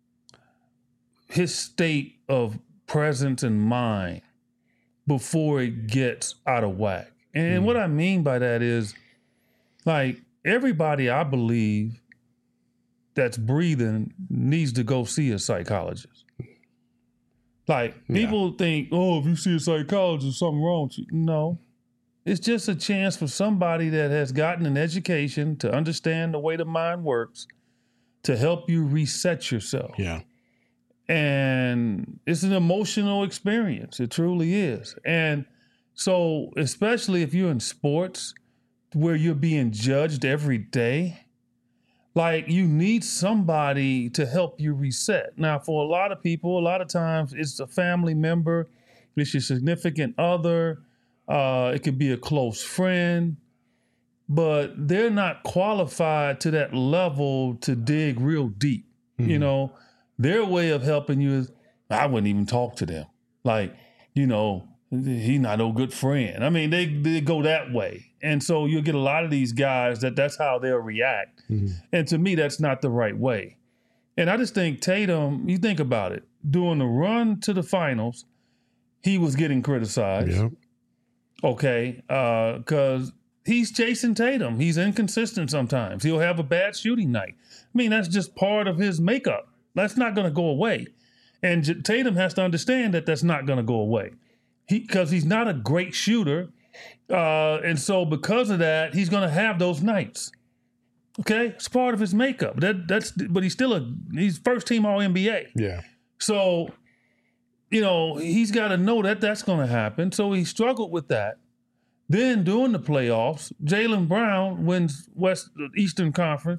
his state of presence and mind before it gets out of whack. And what I mean by that is, like, everybody I believe that's breathing needs to go see a psychologist. Like, Yeah. people think, oh, if you see a psychologist, something wrong with you. No. It's just a chance for somebody that has gotten an education to understand the way the mind works to help you reset yourself. Yeah. And it's an emotional experience. It truly is. And so, especially if you're in sports where you're being judged every day, like, you need somebody to help you reset. Now, for a lot of people, a lot of times it's a family member, it's your significant other, uh, it could be a close friend, but they're not qualified to that level to dig real deep. Mm-hmm. You know, their way of helping you is, I wouldn't even talk to them. Like, you know, he's not no good friend. I mean, they, they go that way. And so you'll get a lot of these guys that that's how they'll react. Mm-hmm. And to me, that's not the right way. And I just think Tatum, you think about it, during the run to the finals, he was getting criticized. Yeah. Okay, because uh, he's Jason Tatum. He's inconsistent sometimes. He'll have a bad shooting night. I mean, that's just part of his makeup. That's not going to go away. And J- Tatum has to understand that that's not going to go away. He because he's not a great shooter. Uh, and so because of that, he's going to have those nights. Okay? It's part of his makeup. That that's but he's still a he's first team All N B A. Yeah. So, you know, he's got to know that that's going to happen. So he struggled with that. Then during the playoffs, Jaylen Brown wins West Eastern Conference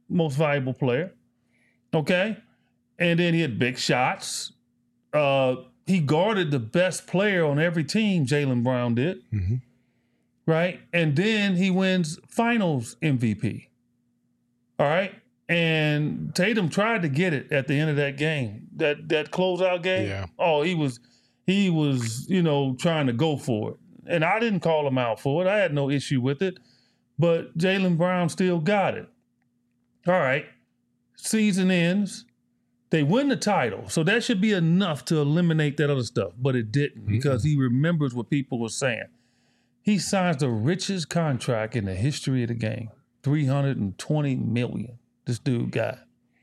most valuable player. Okay. And then he had big shots. Uh, he guarded the best player on every team, Jaylen Brown did. Mm-hmm. Right? And then he wins finals M V P. All right? And Tatum tried to get it at the end of that game. That that closeout game. Yeah. Oh, he was he was, you know, trying to go for it. And I didn't call him out for it. I had no issue with it. But Jaylen Brown still got it. All right. Season ends. They win the title. So that should be enough to eliminate that other stuff. But it didn't mm-hmm. because he remembers what people were saying. He signs the richest contract in the history of the game. three hundred twenty million dollars this dude got.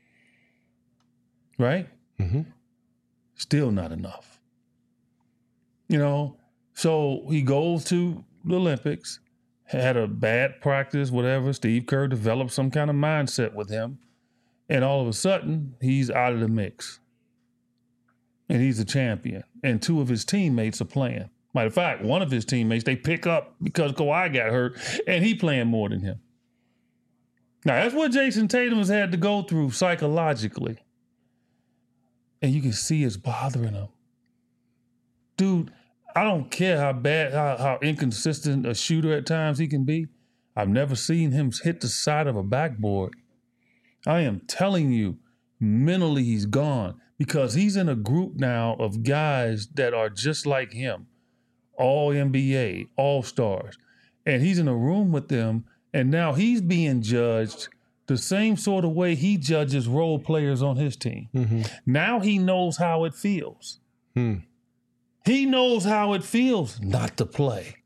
Right? Mm-hmm. Still not enough. You know, so he goes to the Olympics, had a bad practice, whatever. Steve Kerr developed some kind of mindset with him. And all of a sudden, he's out of the mix. And he's a champion. And two of his teammates are playing. Matter of fact, one of his teammates, they pick up because Kawhi got hurt, and he playing more than him. Now, that's what Jason Tatum has had to go through psychologically. And you can see it's bothering him. Dude, I don't care how bad, how, how inconsistent a shooter at times he can be. I've never seen him hit the side of a backboard. I am telling you, mentally he's gone because he's in a group now of guys that are just like him. All N B A, all-stars. And he's in a room with them, and now he's being judged the same sort of way he judges role players on his team. Mm-hmm. Now he knows how it feels. Hmm. He knows how it feels not to play.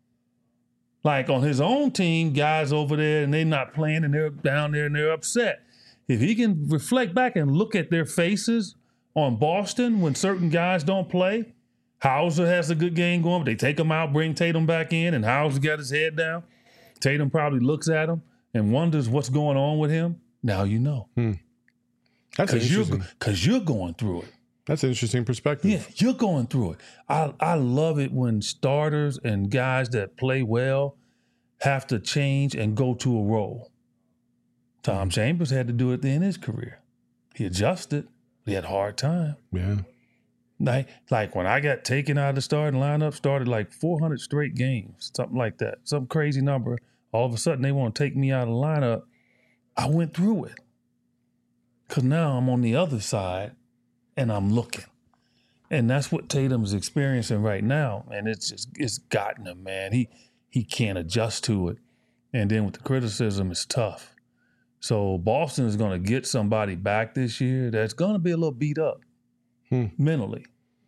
Like on his own team, guys over there, and they're not playing, and they're down there, and they're upset. If he can reflect back and look at their faces on Boston when certain guys don't play, Hauser has a good game going, but they take him out, bring Tatum back in, and Hauser got his head down. Tatum probably looks at him and wonders what's going on with him. Now you know. Hmm. That's interesting. Because you're, you're going through it. That's an interesting perspective. Yeah, you're going through it. I, I love it when starters and guys that play well have to change and go to a role. Tom Chambers had to do it in his career. He adjusted. He had a hard time. Yeah. Like, like when I got taken out of the starting lineup, started like four hundred straight games, something like that, some crazy number. All of a sudden, they want to take me out of the lineup. I went through it. Because now I'm on the other side, and I'm looking. And that's what Tatum's experiencing right now. And it's just, it's gotten him, man. He he can't adjust to it. And then with the criticism, it's tough. So Boston is going to get somebody back this year that's going to be a little beat up hmm. mentally.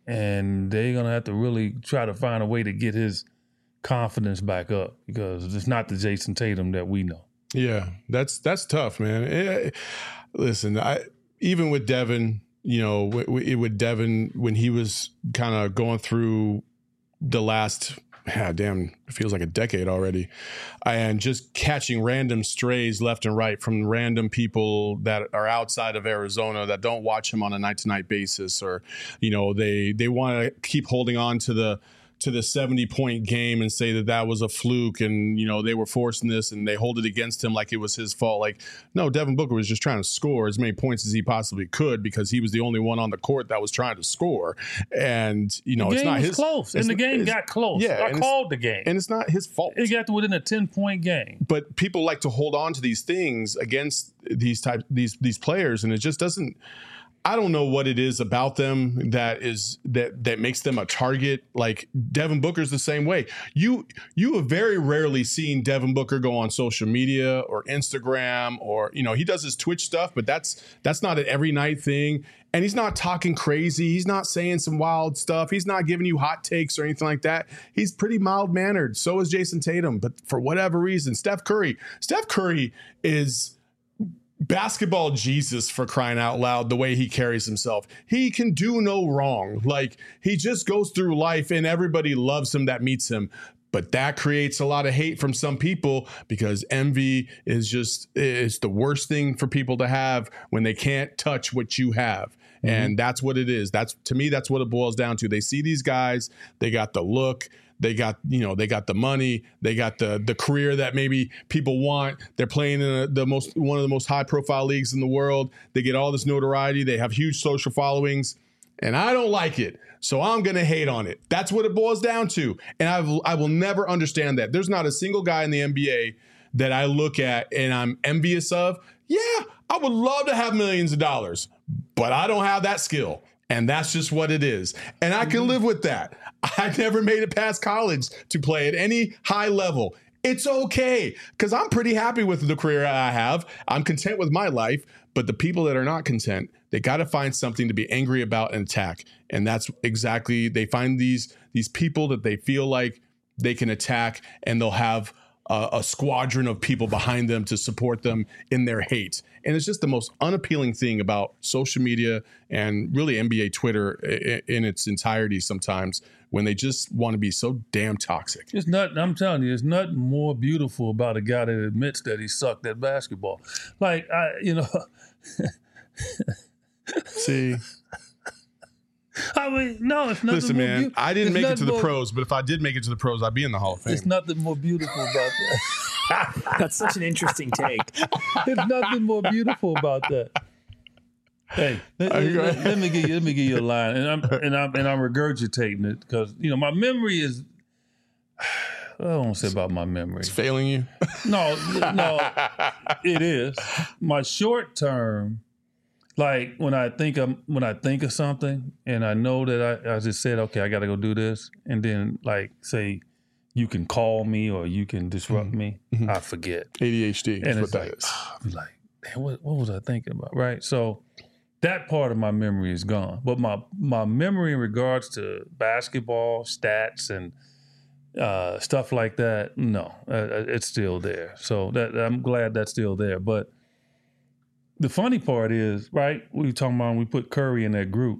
And they're going to have to really try to find a way to get his confidence back up because it's not the Jason Tatum that we know. Yeah, that's that's tough, man. It, listen, I even with Devin, you know, with, with Devin, when he was kind of going through the last, yeah, damn, it feels like a decade already, and just catching random strays left and right from random people that are outside of Arizona that don't watch him on a night-to-night basis, or, you know, they they want to keep holding on to the to the seventy point game and say that that was a fluke and, you know, they were forcing this and they hold it against him like it was his fault. Like, no, Devin Booker was just trying to score as many points as he possibly could because he was the only one on the court that was trying to score. And, you know, the game it's not was his close. And the game got close. Yeah, I called the game. And it's not his fault. It got to within a ten point game. But people like to hold on to these things against these type these these players, and it just doesn't. I don't know what it is about them that is that that makes them a target. Like Devin Booker's the same way. You you have very rarely seen Devin Booker go on social media or Instagram, or, you know, he does his Twitch stuff, but that's that's not an every night thing. And he's not talking crazy. He's not saying some wild stuff. He's not giving you hot takes or anything like that. He's pretty mild mannered. So is Jason Tatum. But for whatever reason, Steph Curry, Steph Curry is basketball Jesus, for crying out loud, the way he carries himself. He can do no wrong. Like, he just goes through life and everybody loves him that meets him. But that creates a lot of hate from some people because envy is just, it's the worst thing for people to have when they can't touch what you have. Mm-hmm. And that's what it is. That's, to me, that's what it boils down to. They see these guys, they got the look, They got, you know, they got the money. They got the the career that maybe people want. They're playing in a, the most one of the most high profile leagues in the world. They get all this notoriety. They have huge social followings, and I don't like it. So I'm going to hate on it. That's what it boils down to. And I I will never understand that. There's not a single guy in the N B A that I look at and I'm envious of. Yeah, I would love to have millions of dollars, but I don't have that skill. And that's just what it is. And I can live with that. I never made it past college to play at any high level. It's okay, because I'm pretty happy with the career I have. I'm content with my life. But the people that are not content, they got to find something to be angry about and attack. And that's exactly, they find these, these people that they feel like they can attack, and they'll have a, a squadron of people behind them to support them in their hate. And it's just the most unappealing thing about social media and really N B A Twitter in, in its entirety sometimes, when they just want to be so damn toxic. It's not, I'm telling you, there's nothing more beautiful about a guy that admits that he sucked at basketball. Like, I, you know. See? I mean, no, it's nothing Listen, more man, beau- I didn't it's make it to the more, pros, but if I did make it to the pros, I'd be in the Hall of Fame. There's nothing more beautiful about that. That's such an interesting take. There's nothing more beautiful about that. Hey, let, let, let me give you let me give you a line, and I'm and I'm and I'm regurgitating it because you know my memory is. I don't want to say about my memory. It's failing you? No, no, it is. My short term, like when I think of when I think of something, and I know that I, I just said, okay, I got to go do this, and then like say, you can call me or you can disrupt mm-hmm. me, mm-hmm. I forget. A D H D. And is it's what like, that is. oh, I'll be like, man, what, what was I thinking about? Right. So that part of my memory is gone. But my my memory in regards to basketball, stats, and uh, stuff like that, no, uh, it's still there. So that I'm glad that's still there. But the funny part is, right, we were talking about when we put Curry in that group.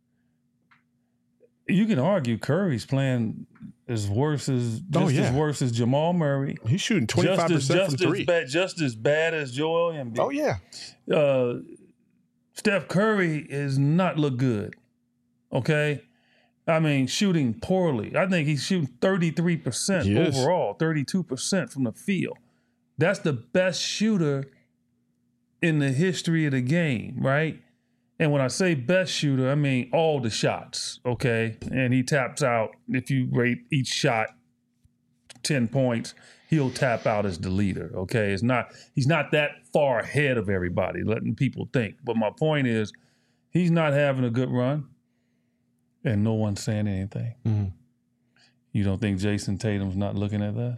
You can argue Curry's playing as worse as just oh, yeah. as worse as Jamal Murray. He's shooting twenty-five percent just from as, three. Just, bad, just as bad as Joel Embiid. Oh, yeah. Uh, Steph Curry is not look good, okay? I mean, shooting poorly. I think he's shooting thirty-three percent He is. overall, thirty-two percent from the field. That's the best shooter in the history of the game, right? And when I say best shooter, I mean all the shots, okay? And he taps out, if you rate each shot ten points, he'll tap out as the leader, okay? It's not, he's not that far ahead of everybody, letting people think. But my point is, he's not having a good run, and no one's saying anything. Mm-hmm. You don't think Jason Tatum's not looking at that?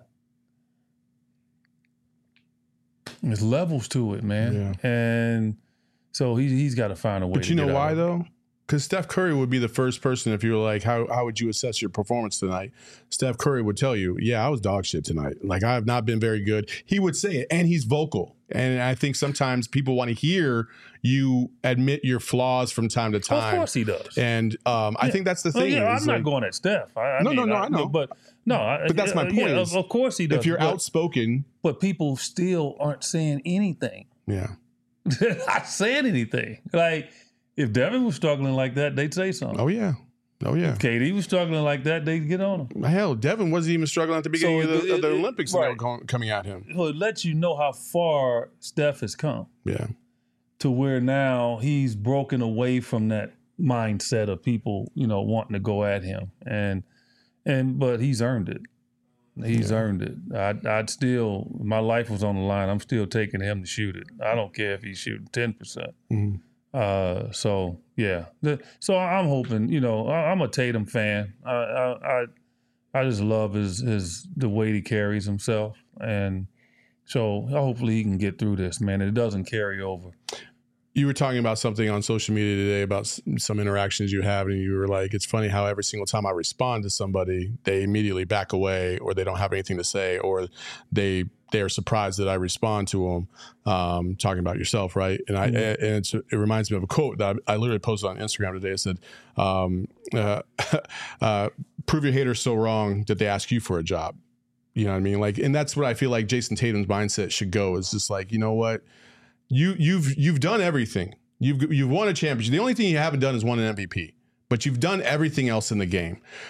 There's levels to it, man. Yeah. And so he, he's got to find a way But to you know get why, out of it. though? Because Steph Curry would be the first person, if you were like, how how would you assess your performance tonight? Steph Curry would tell you, yeah, I was dog shit tonight. Like, I have not been very good. He would say it, and he's vocal. And I think sometimes people want to hear you admit your flaws from time to time. Of course he does. And um, I Yeah. think that's the Oh, thing. yeah, is, I'm like, not going at Steph. I, I No, mean, no, no, I know. But no, I, But that's my uh, point Yeah, is, of course he does. if you're but, outspoken, but people still aren't saying anything. yeah. Not saying anything. Like if Devin was struggling like that, they'd say something. Oh, yeah. Oh, yeah. If K D was struggling like that, they'd get on him. Hell, Devin wasn't even struggling at the beginning So of, the, it- of the it- Olympics right. and they were going, coming at him. So it lets you know how far Steph has come Yeah. to where now he's broken away from that mindset of people, you know, wanting to go at him. And and but he's earned it. He's Yeah. earned it. I'd, I'd still, my life was on the line. I'm still taking him to shoot it. I don't care if he's shooting ten percent. Mhm. Uh, so yeah. The, so I'm hoping, you know, I, I'm a Tatum fan. I, I, I, I just love his, his, the way he carries himself. And so hopefully he can get through this, man. It doesn't carry over. You were talking about something on social media today about s- some interactions you have, and you were like, it's funny how every single time I respond to somebody, they immediately back away, or they don't have anything to say, or they they are surprised that I respond to them. Um, talking about yourself, right? And I Mhm. and it's, it reminds me of a quote that I, I literally posted on Instagram today. It said, um, uh, uh, "Prove your haters so wrong that they ask you for a job." You know what I mean? Like, and that's what I feel like Jason Tatum's mindset should go. Is just like, you know what? You you've you've done everything. You've you've won a championship. The only thing you haven't done is won an M V P. But you've done everything else in the game.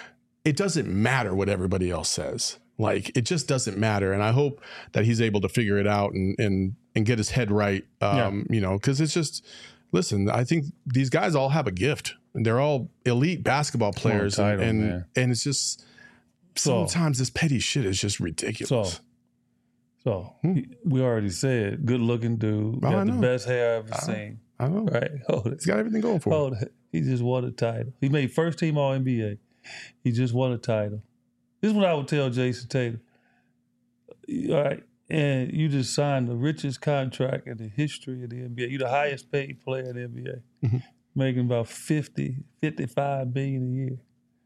it doesn't matter what everybody else says. Like, it just doesn't matter. And I hope that he's able to figure it out and and and get his head right. Um, yeah. You know, because it's just, listen, I think these guys all have a gift. And they're all elite basketball players. Title, and and, and it's just, sometimes so, this petty shit is just ridiculous. So, so hmm. we already said, good looking dude. Oh, got the best hair I've ever I seen. I know. Right? Hold it. He's got everything going for him. Hold it. He just won a title. He made first team All N B A. He just won a title. This is what I would tell Jason Tatum. All right. And you just signed the richest contract in the history of the N B A. You're the highest paid player in the N B A. Mm-hmm. Making about fifty, fifty-five billion a year.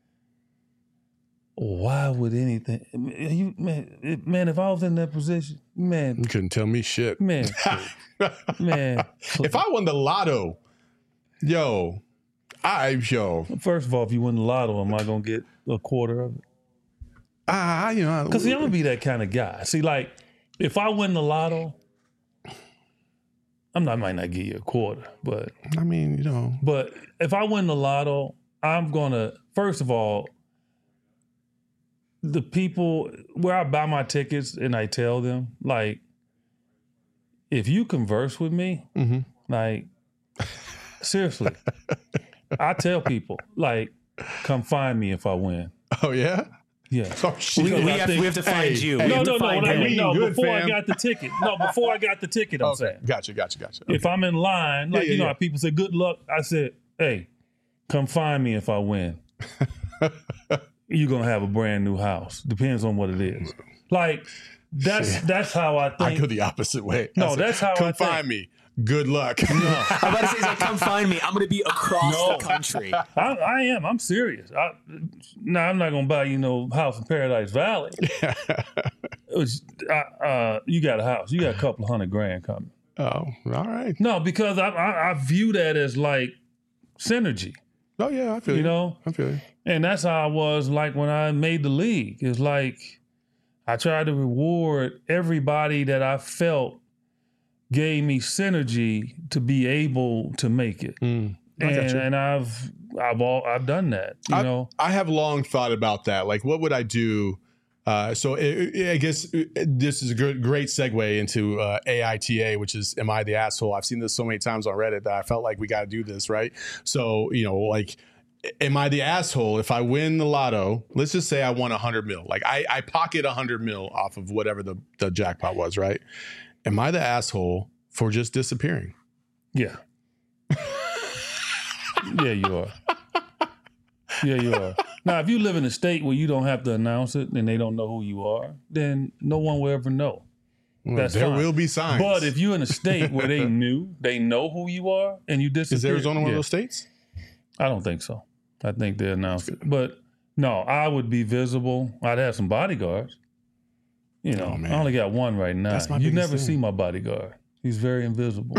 Why would anything, you man, man, if I was in that position, man. You couldn't tell me shit. Man, man. If I won the lotto, yo, I, yo. First of all, if you win the lotto, am I going to get a quarter of it? Ah, you know. Because see, I'm going to be that kind of guy. See, like, if I win the lotto, I'm not, I might not give you a quarter, but. I mean, you know. But if I win the lotto, I'm going to, first of all, the people where I buy my tickets and I tell them, like, if you converse with me, mm-hmm. like, seriously, I tell people, like, come find me if I win. Oh, yeah? Yeah. Oh, shit. We, we, have, we have to find hey, you. Hey, no, no, no, no, hey, no, good, before fam. I got the ticket. No, before I got the ticket, I'm okay. saying. Gotcha, gotcha, gotcha. Okay. If I'm in line, like, yeah, yeah, you know yeah. how people say, good luck, I said, hey, come find me if I win. You're going to have a brand new house. Depends on what it is. Like, that's Shit. that's how I think. I go the opposite way. No, said, that's how I think. Come find me. Good luck. No. I'm about to say, he's like, come find me. I'm going to be across no. the country. I, I am. I'm serious. I, now, I'm not going to buy you no house in Paradise Valley. It was, I, uh, you got a house. You got a couple of hundred grand coming. Oh, all right. No, because I, I, I view that as like synergy. Oh, yeah, I feel you. You know? I feel you. And that's how I was like when I made the league. It's like I tried to reward everybody that I felt gave me synergy to be able to make it. Mm, and, and I've I've all I've done that. You I, know, I have long thought about that. Like, what would I do? Uh, so it, it, I guess this is a good, great segue into uh, A I T A, which is Am I the Asshole? I've seen this so many times on Reddit that I felt like we got to do this, right? So, you know, like, am I the asshole if I win the lotto? Let's just say I won one hundred mil. Like, I, I pocket one hundred mil off of whatever the, the jackpot was, right? Am I the asshole for just disappearing? Yeah. Yeah, you are. Yeah, you are. Now, if you live in a state where you don't have to announce it and they don't know who you are, then no one will ever know. Well, That's there fine. will be signs. But if you're in a state where they knew, they know who you are, and you disappear. Is Arizona one yeah. of those states? I don't think so. I think they announced it. But no, I would be visible. I'd have some bodyguards. You know, oh, I only got one right now. That's my you never thing. see my bodyguard. He's very invisible.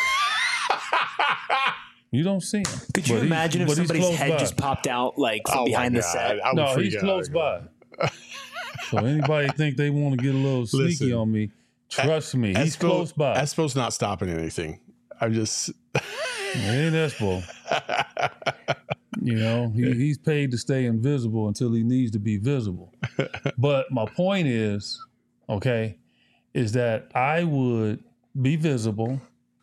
You don't see him. Could you but imagine he, if somebody's head by. just popped out like from oh behind the God. set? No, he's close by. So anybody think they want to get a little sneaky Listen, on me, trust me, he's Espo, close by. Espo's not stopping anything. I'm just... It ain't Espo. You know, he, he's paid to stay invisible until he needs to be visible. But my point is, okay, is that I would be visible.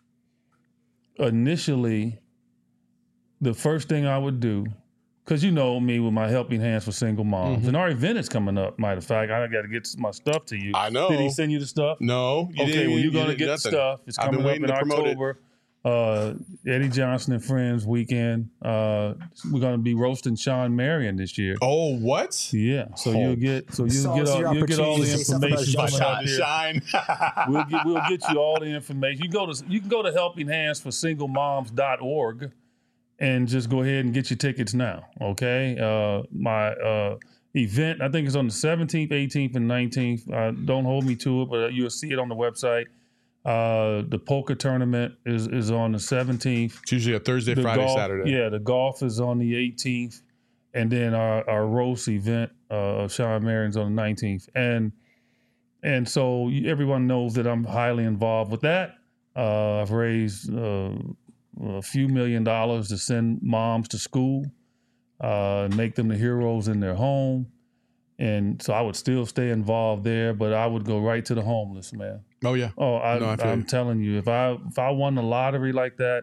Initially, the first thing I would do, because you know me with my helping hands for single moms, mm-hmm. and our event is coming up, matter of fact, I got to get my stuff to you. I know. Did he send you the stuff? No. You okay, didn't, well, you're going to get nothing. the stuff. It's coming up in October. Uh, Eddie Johnson and Friends weekend. Uh, we're going to be roasting Sean Marion this year. Oh, what? Yeah. So oh. you'll get so you'll so get all, you'll get all the information coming shine, up here. Shine. we'll get we'll get you all the information. You go to you can go to helping hands for single moms dot org and just go ahead and get your tickets now. Okay. Uh, my uh, event I think it's on the seventeenth, eighteenth, and nineteenth. Uh, don't hold me to it, but you'll see it on the website. Uh, the poker tournament is, is on the seventeenth. It's usually a Thursday, the Friday, golf, Saturday. Yeah, the golf is on the eighteenth. And then our, our roast event uh, of Sean Marion's on the nineteenth. And and so everyone knows that I'm highly involved with that. Uh, I've raised uh, a few million dollars to send moms to school. uh, make them the heroes in their home. And so I would still stay involved there, but I would go right to the homeless, man. Oh yeah. Oh, I, No, I feel I'm you. telling you, if I if I won the lottery like that,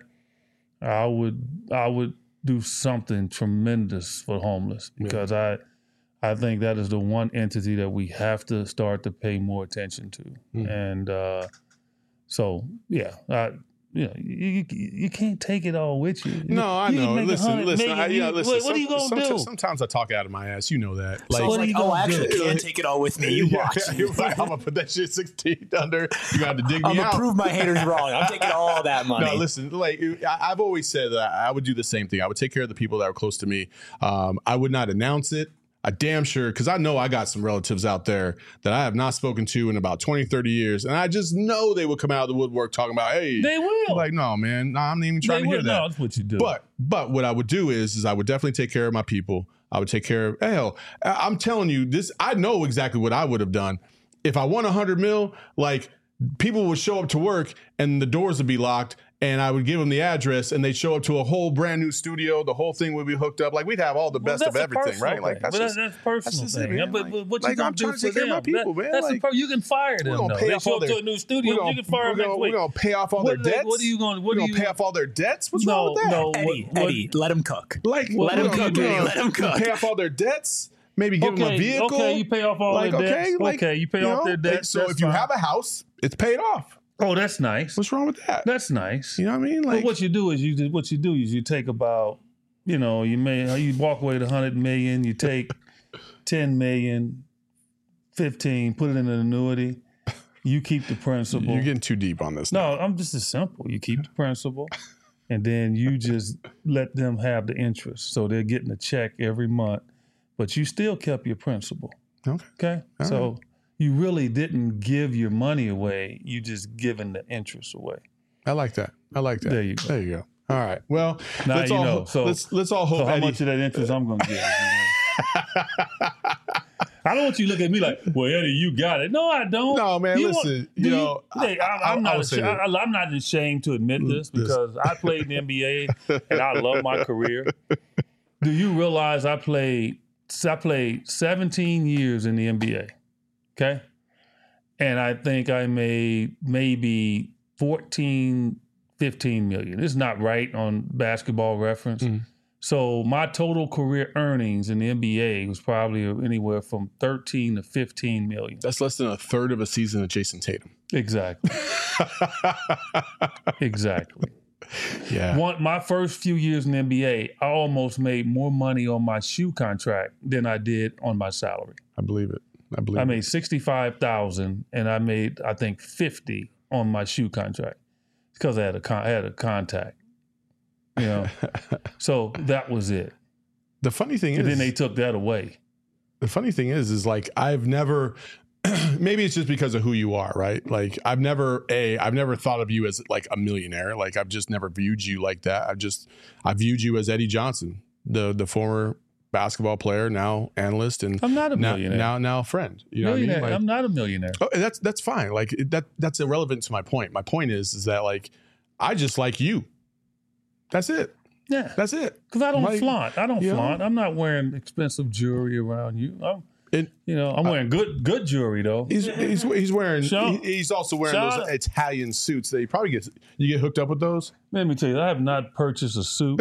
I would I would do something tremendous for homeless because I I think that is the one entity that we have to start to pay more attention to. Mm. And uh, so yeah, I, yeah, you, you you can't take it all with you. No, I You can know. make a Listen, hundred listen, million, I, yeah, you- listen. What, what are you some- gonna sometimes, do? Sometimes I talk out of my ass. You know that. Like, So what are like, you oh, gonna I actually do? can't take it all with me. You yeah, watch. you're like, I'm gonna put that shit six feet under. You got to dig I'm me gonna out. prove my haters wrong. I'm taking all that money. No, listen. Like I, I've always said that I would do the same thing. I would take care of the people that are close to me. Um, I would not announce it. I damn sure, because I know I got some relatives out there that I have not spoken to in about twenty, thirty years. And I just know they would come out of the woodwork talking about, hey, They will. like, no, man, no, I'm not even trying they to hear will. that. No, that's what you do. But but what I would do is is I would definitely take care of my people. I would take care of hell. I- I'm telling you this. I know exactly what I would have done if I won a hundred mil. Like people would show up to work and the doors would be locked, and I would give them the address, and they'd show up to a whole brand new studio. The whole thing would be hooked up. Like we'd have all the Well, best of that's a everything, personal right? Like thing. that's But just, that's personal just it, thing. man. But, Like- but what like, you gonna I'm do trying to for take care them? of my people, That- man. That's Like, the per- you can fire them. we're gonna though. pay They off show all up their- to a new studio. We're gonna, You can fire we're them gonna, next we're week. gonna pay off all What their are they- debts. what are you gonna- what we're are gonna you- pay off all their debts. What's No, wrong with that? no. Eddie, What- what- Eddie, let him cook. Like, Let him we're cook, gonna- Eddie. Let him cook. Pay off all their debts. Maybe give them a Okay, vehicle. okay, you pay off all like, their debts. Okay, like, Okay, you pay off know, their like, debts, So that's if you fine. have a house, it's paid off. Oh, that's nice. What's wrong with that? That's nice. You know what I mean? But Like, what you do is you do- what you do is you take about, you know, you may you walk away with a hundred million, you take ten million, fifteen, put it in an annuity, you keep the principal. you're getting too deep on this. now. No, I'm just as simple. You keep the principal, and then you just let them have the interest. So they're getting a check every month, but you still kept your principal. Okay. Okay. All so right. you really didn't give your money away. You just given the interest away. I like that. I like that. There you go. There you go. All right. Well, Now let's you all know. So- let's let's all hope So how Eddie. much of that interest I'm gonna get? I don't want you to look at me like, well, Eddie, you got it. No, I don't. No, man, You listen, do you know, Hey, I- I, I- I'm I not. would say ashamed, that. I, I'm not ashamed to admit this This- because I played in the N B A and I love my career. Do you realize I played? I played seventeen years in the N B A. Okay, and I think I made maybe fourteen, fifteen million. It's not right on Basketball Reference. Mhm. So my total career earnings in the N B A was probably anywhere from thirteen to fifteen million. That's less than a third of a season of Jason Tatum. Exactly. Exactly. Yeah. One, my first few years in the N B A, I almost made more money on my shoe contract than I did on my salary. I believe it. I believe I it. made sixty-five thousand and I made, I think, fifty on my shoe contract because I had a con- I had a contact. You know, so that was it. The funny thing And is, then they took that away. the funny thing is, is like I've never. Maybe it's just because of who you are, right? Like I've never a I've never thought of you as like a millionaire. Like I've just never viewed you like that. I've just I viewed you as Eddie Johnson, the the former basketball player, now analyst, and I'm not a now millionaire. now now friend. You know millionaire. what I mean? Like, I'm not a millionaire. oh, that's that's fine. Like it- that that's irrelevant to my point. My point is is that like I just like you. That's it. Yeah, That's it. because I don't Like, flaunt. I don't you know? flaunt. I'm not wearing expensive jewelry around you. I'm, It- you know, I'm wearing good good jewelry though. He's he's, he's wearing Sean- he- he's also wearing Sean- those Italian suits that you probably get you get hooked up with those. Let me tell you, I have not purchased a suit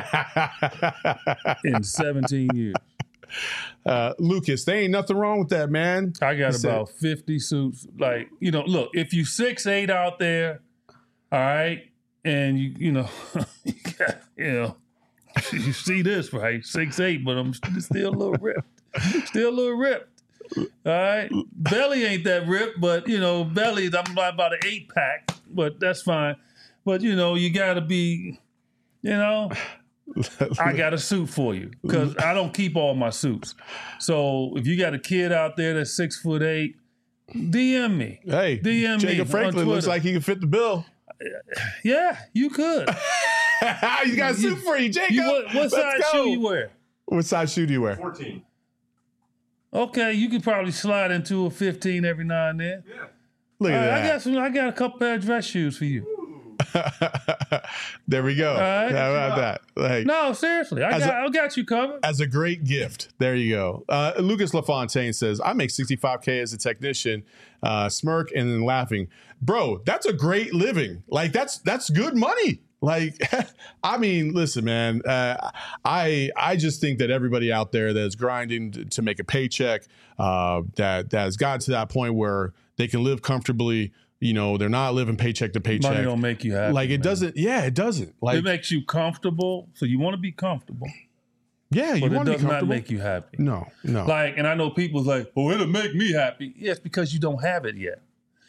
in seventeen years. uh, Lucas, there ain't nothing wrong with that, man. I got He said- about fifty suits. Like, you know, look, if you six eight out there, all right, and you you know, you, got, you know, you see this right, six eight, but I'm still a little ripped, still a little ripped. All right, belly ain't that ripped, but you know, belly I'm about an eight pack, but that's fine. But you know, you got to be, you know. I got a suit for you because I don't keep all my suits. So if you got a kid out there that's six foot eight, D M me. Hey, D M me Jacob on Franklin looks Twitter. like he can fit the bill. Yeah, you could. He's got a suit for you, Jacob. You, what what Let's size go. shoe you wear? What size shoe do you wear? fourteen. Okay, you could probably slide into a fifteen every now and then. Yeah. Look All at right, I that. got some. I got a couple pair of dress shoes for you. There we go. right. How about that? Like, No, seriously, I As got, a- I got you covered. as a great gift. There you go. Uh, Lucas LaFontaine says, I make sixty-five K as a technician, uh, smirk and then laughing. Bro, that's a great living. Like, that's that's good money. Like, I mean, listen, man, uh, I I just think that everybody out there that's grinding to, to make a paycheck, uh, that, that has gotten to that point where they can live comfortably, you know, they're not living paycheck to paycheck. Money don't make you happy. like, it man. doesn't, yeah, it doesn't. Like, It makes you comfortable, so you want to be comfortable, yeah, you but it want to be does not comfortable. make you happy. no, no. Like, and I know people's like, "Oh, it'll make me happy." Yes, because you don't have it yet.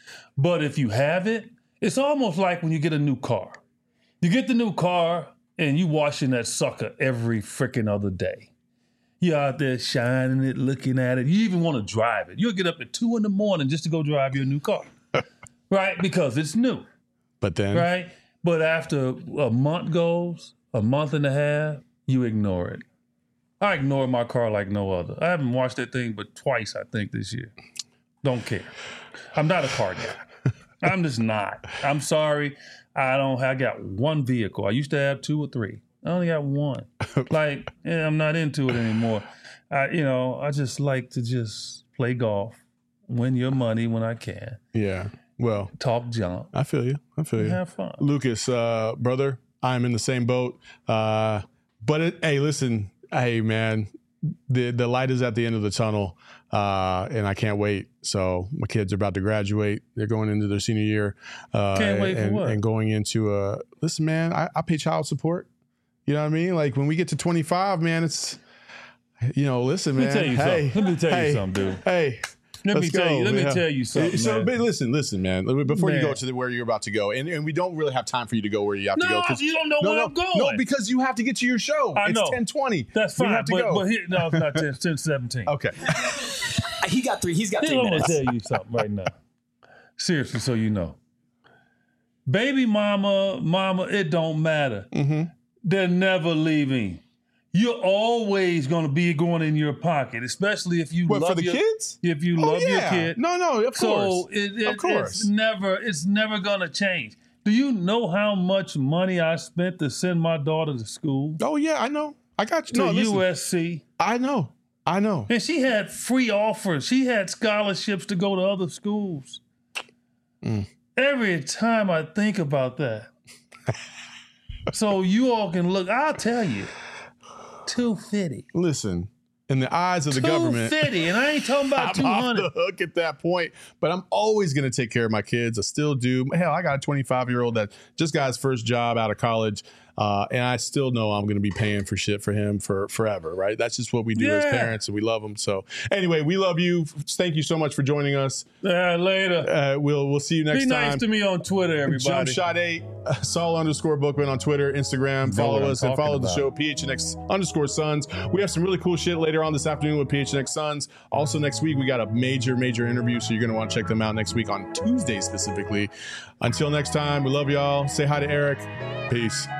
But if you have it, it's almost like when you get a new car. You get the new car and you washing that sucker every freaking other day. You're out there shining it, looking at it. You even want to drive it. You'll get up at two in the morning just to go drive your new car, right? Because it's new, But then, right? But after a month goes, a month and a half, you ignore it. I ignore my car like no other. I haven't washed that thing but twice, I think, this year. Don't care. I'm not a car guy. I'm just not. I'm sorry. I don't. I got one vehicle. I used to have two or three. I only got one. Like, yeah, I'm not into it anymore. I, you know, I just like to just play golf, win your money when I can, yeah. Well, talk junk, I feel you. I feel you. have fun. Lucas, uh, brother, I'm in the same boat. Uh, but it, hey, listen, hey, man, the the light is at the end of the tunnel, uh, and I can't wait. So my kids are about to graduate. They're going into their senior year. Uh, Can't wait for and, what? and going into a, listen, man, I, I pay child support. You know what I mean? Like when we get to twenty-five, man, it's, you know, listen, man. Let me tell you hey, something. Let me tell hey, you something, dude. Hey. Let me Let's tell go, you. Let me yeah. tell you something. So, man. but listen, listen, man. Before you go Man. to the, where you're about to go, and, and we don't really have time for you to go where you have to go. No, 'cause- you don't know no, where no, I'm going. No, because you have to get to your show. I it's know. ten twenty. That's We fine. have to But, go. but here, no, it's not ten, ten seventeen. Okay. He got three. He's got Here, three I'm gonna minutes. tell you something right now. Seriously, so you know. Baby mama, mama, it don't matter. Mm-hmm. They're never leaving. You're always gonna be going in your pocket, especially if you What, love for the your, kids? If you Oh, love your yeah. kid. No, no, of So course. it, it, Of course. it's never, it's never gonna change. Do you know how much money I spent to send my daughter to school? Oh, yeah, I know. I got you. To No, listen. U S C. I know. I know. And she had free offers. She had scholarships to go to other schools. Mm. Every time I think about that. So you all can look, I'll tell you, two fifty. Listen, in the eyes of the government, two fifty, and I ain't talking about two I'm off hundred. the hook at that point, but I'm always going to take care of my kids. I still do. Hell, I got a twenty-five year old that just got his first job out of college. Uh, and I still know I'm going to be paying for shit for him for forever, right? That's just what we do as Yeah. parents, and we love him. So anyway, we love you. Thank you so much for joining us. Uh, later. Uh, we'll we'll see you next Be time. nice to me on Twitter, everybody. Jump Shot eight, uh, Saul underscore Bookman on Twitter, Instagram. know Follow what I'm us and talking follow the about. show, P H N X underscore Suns. We have some really cool shit later on this afternoon with P H N X Suns. Also, next week, we got a major, major interview, so you're going to want to check them out next week on Tuesday specifically. Until next time, we love y'all. Say hi to Eric. Peace.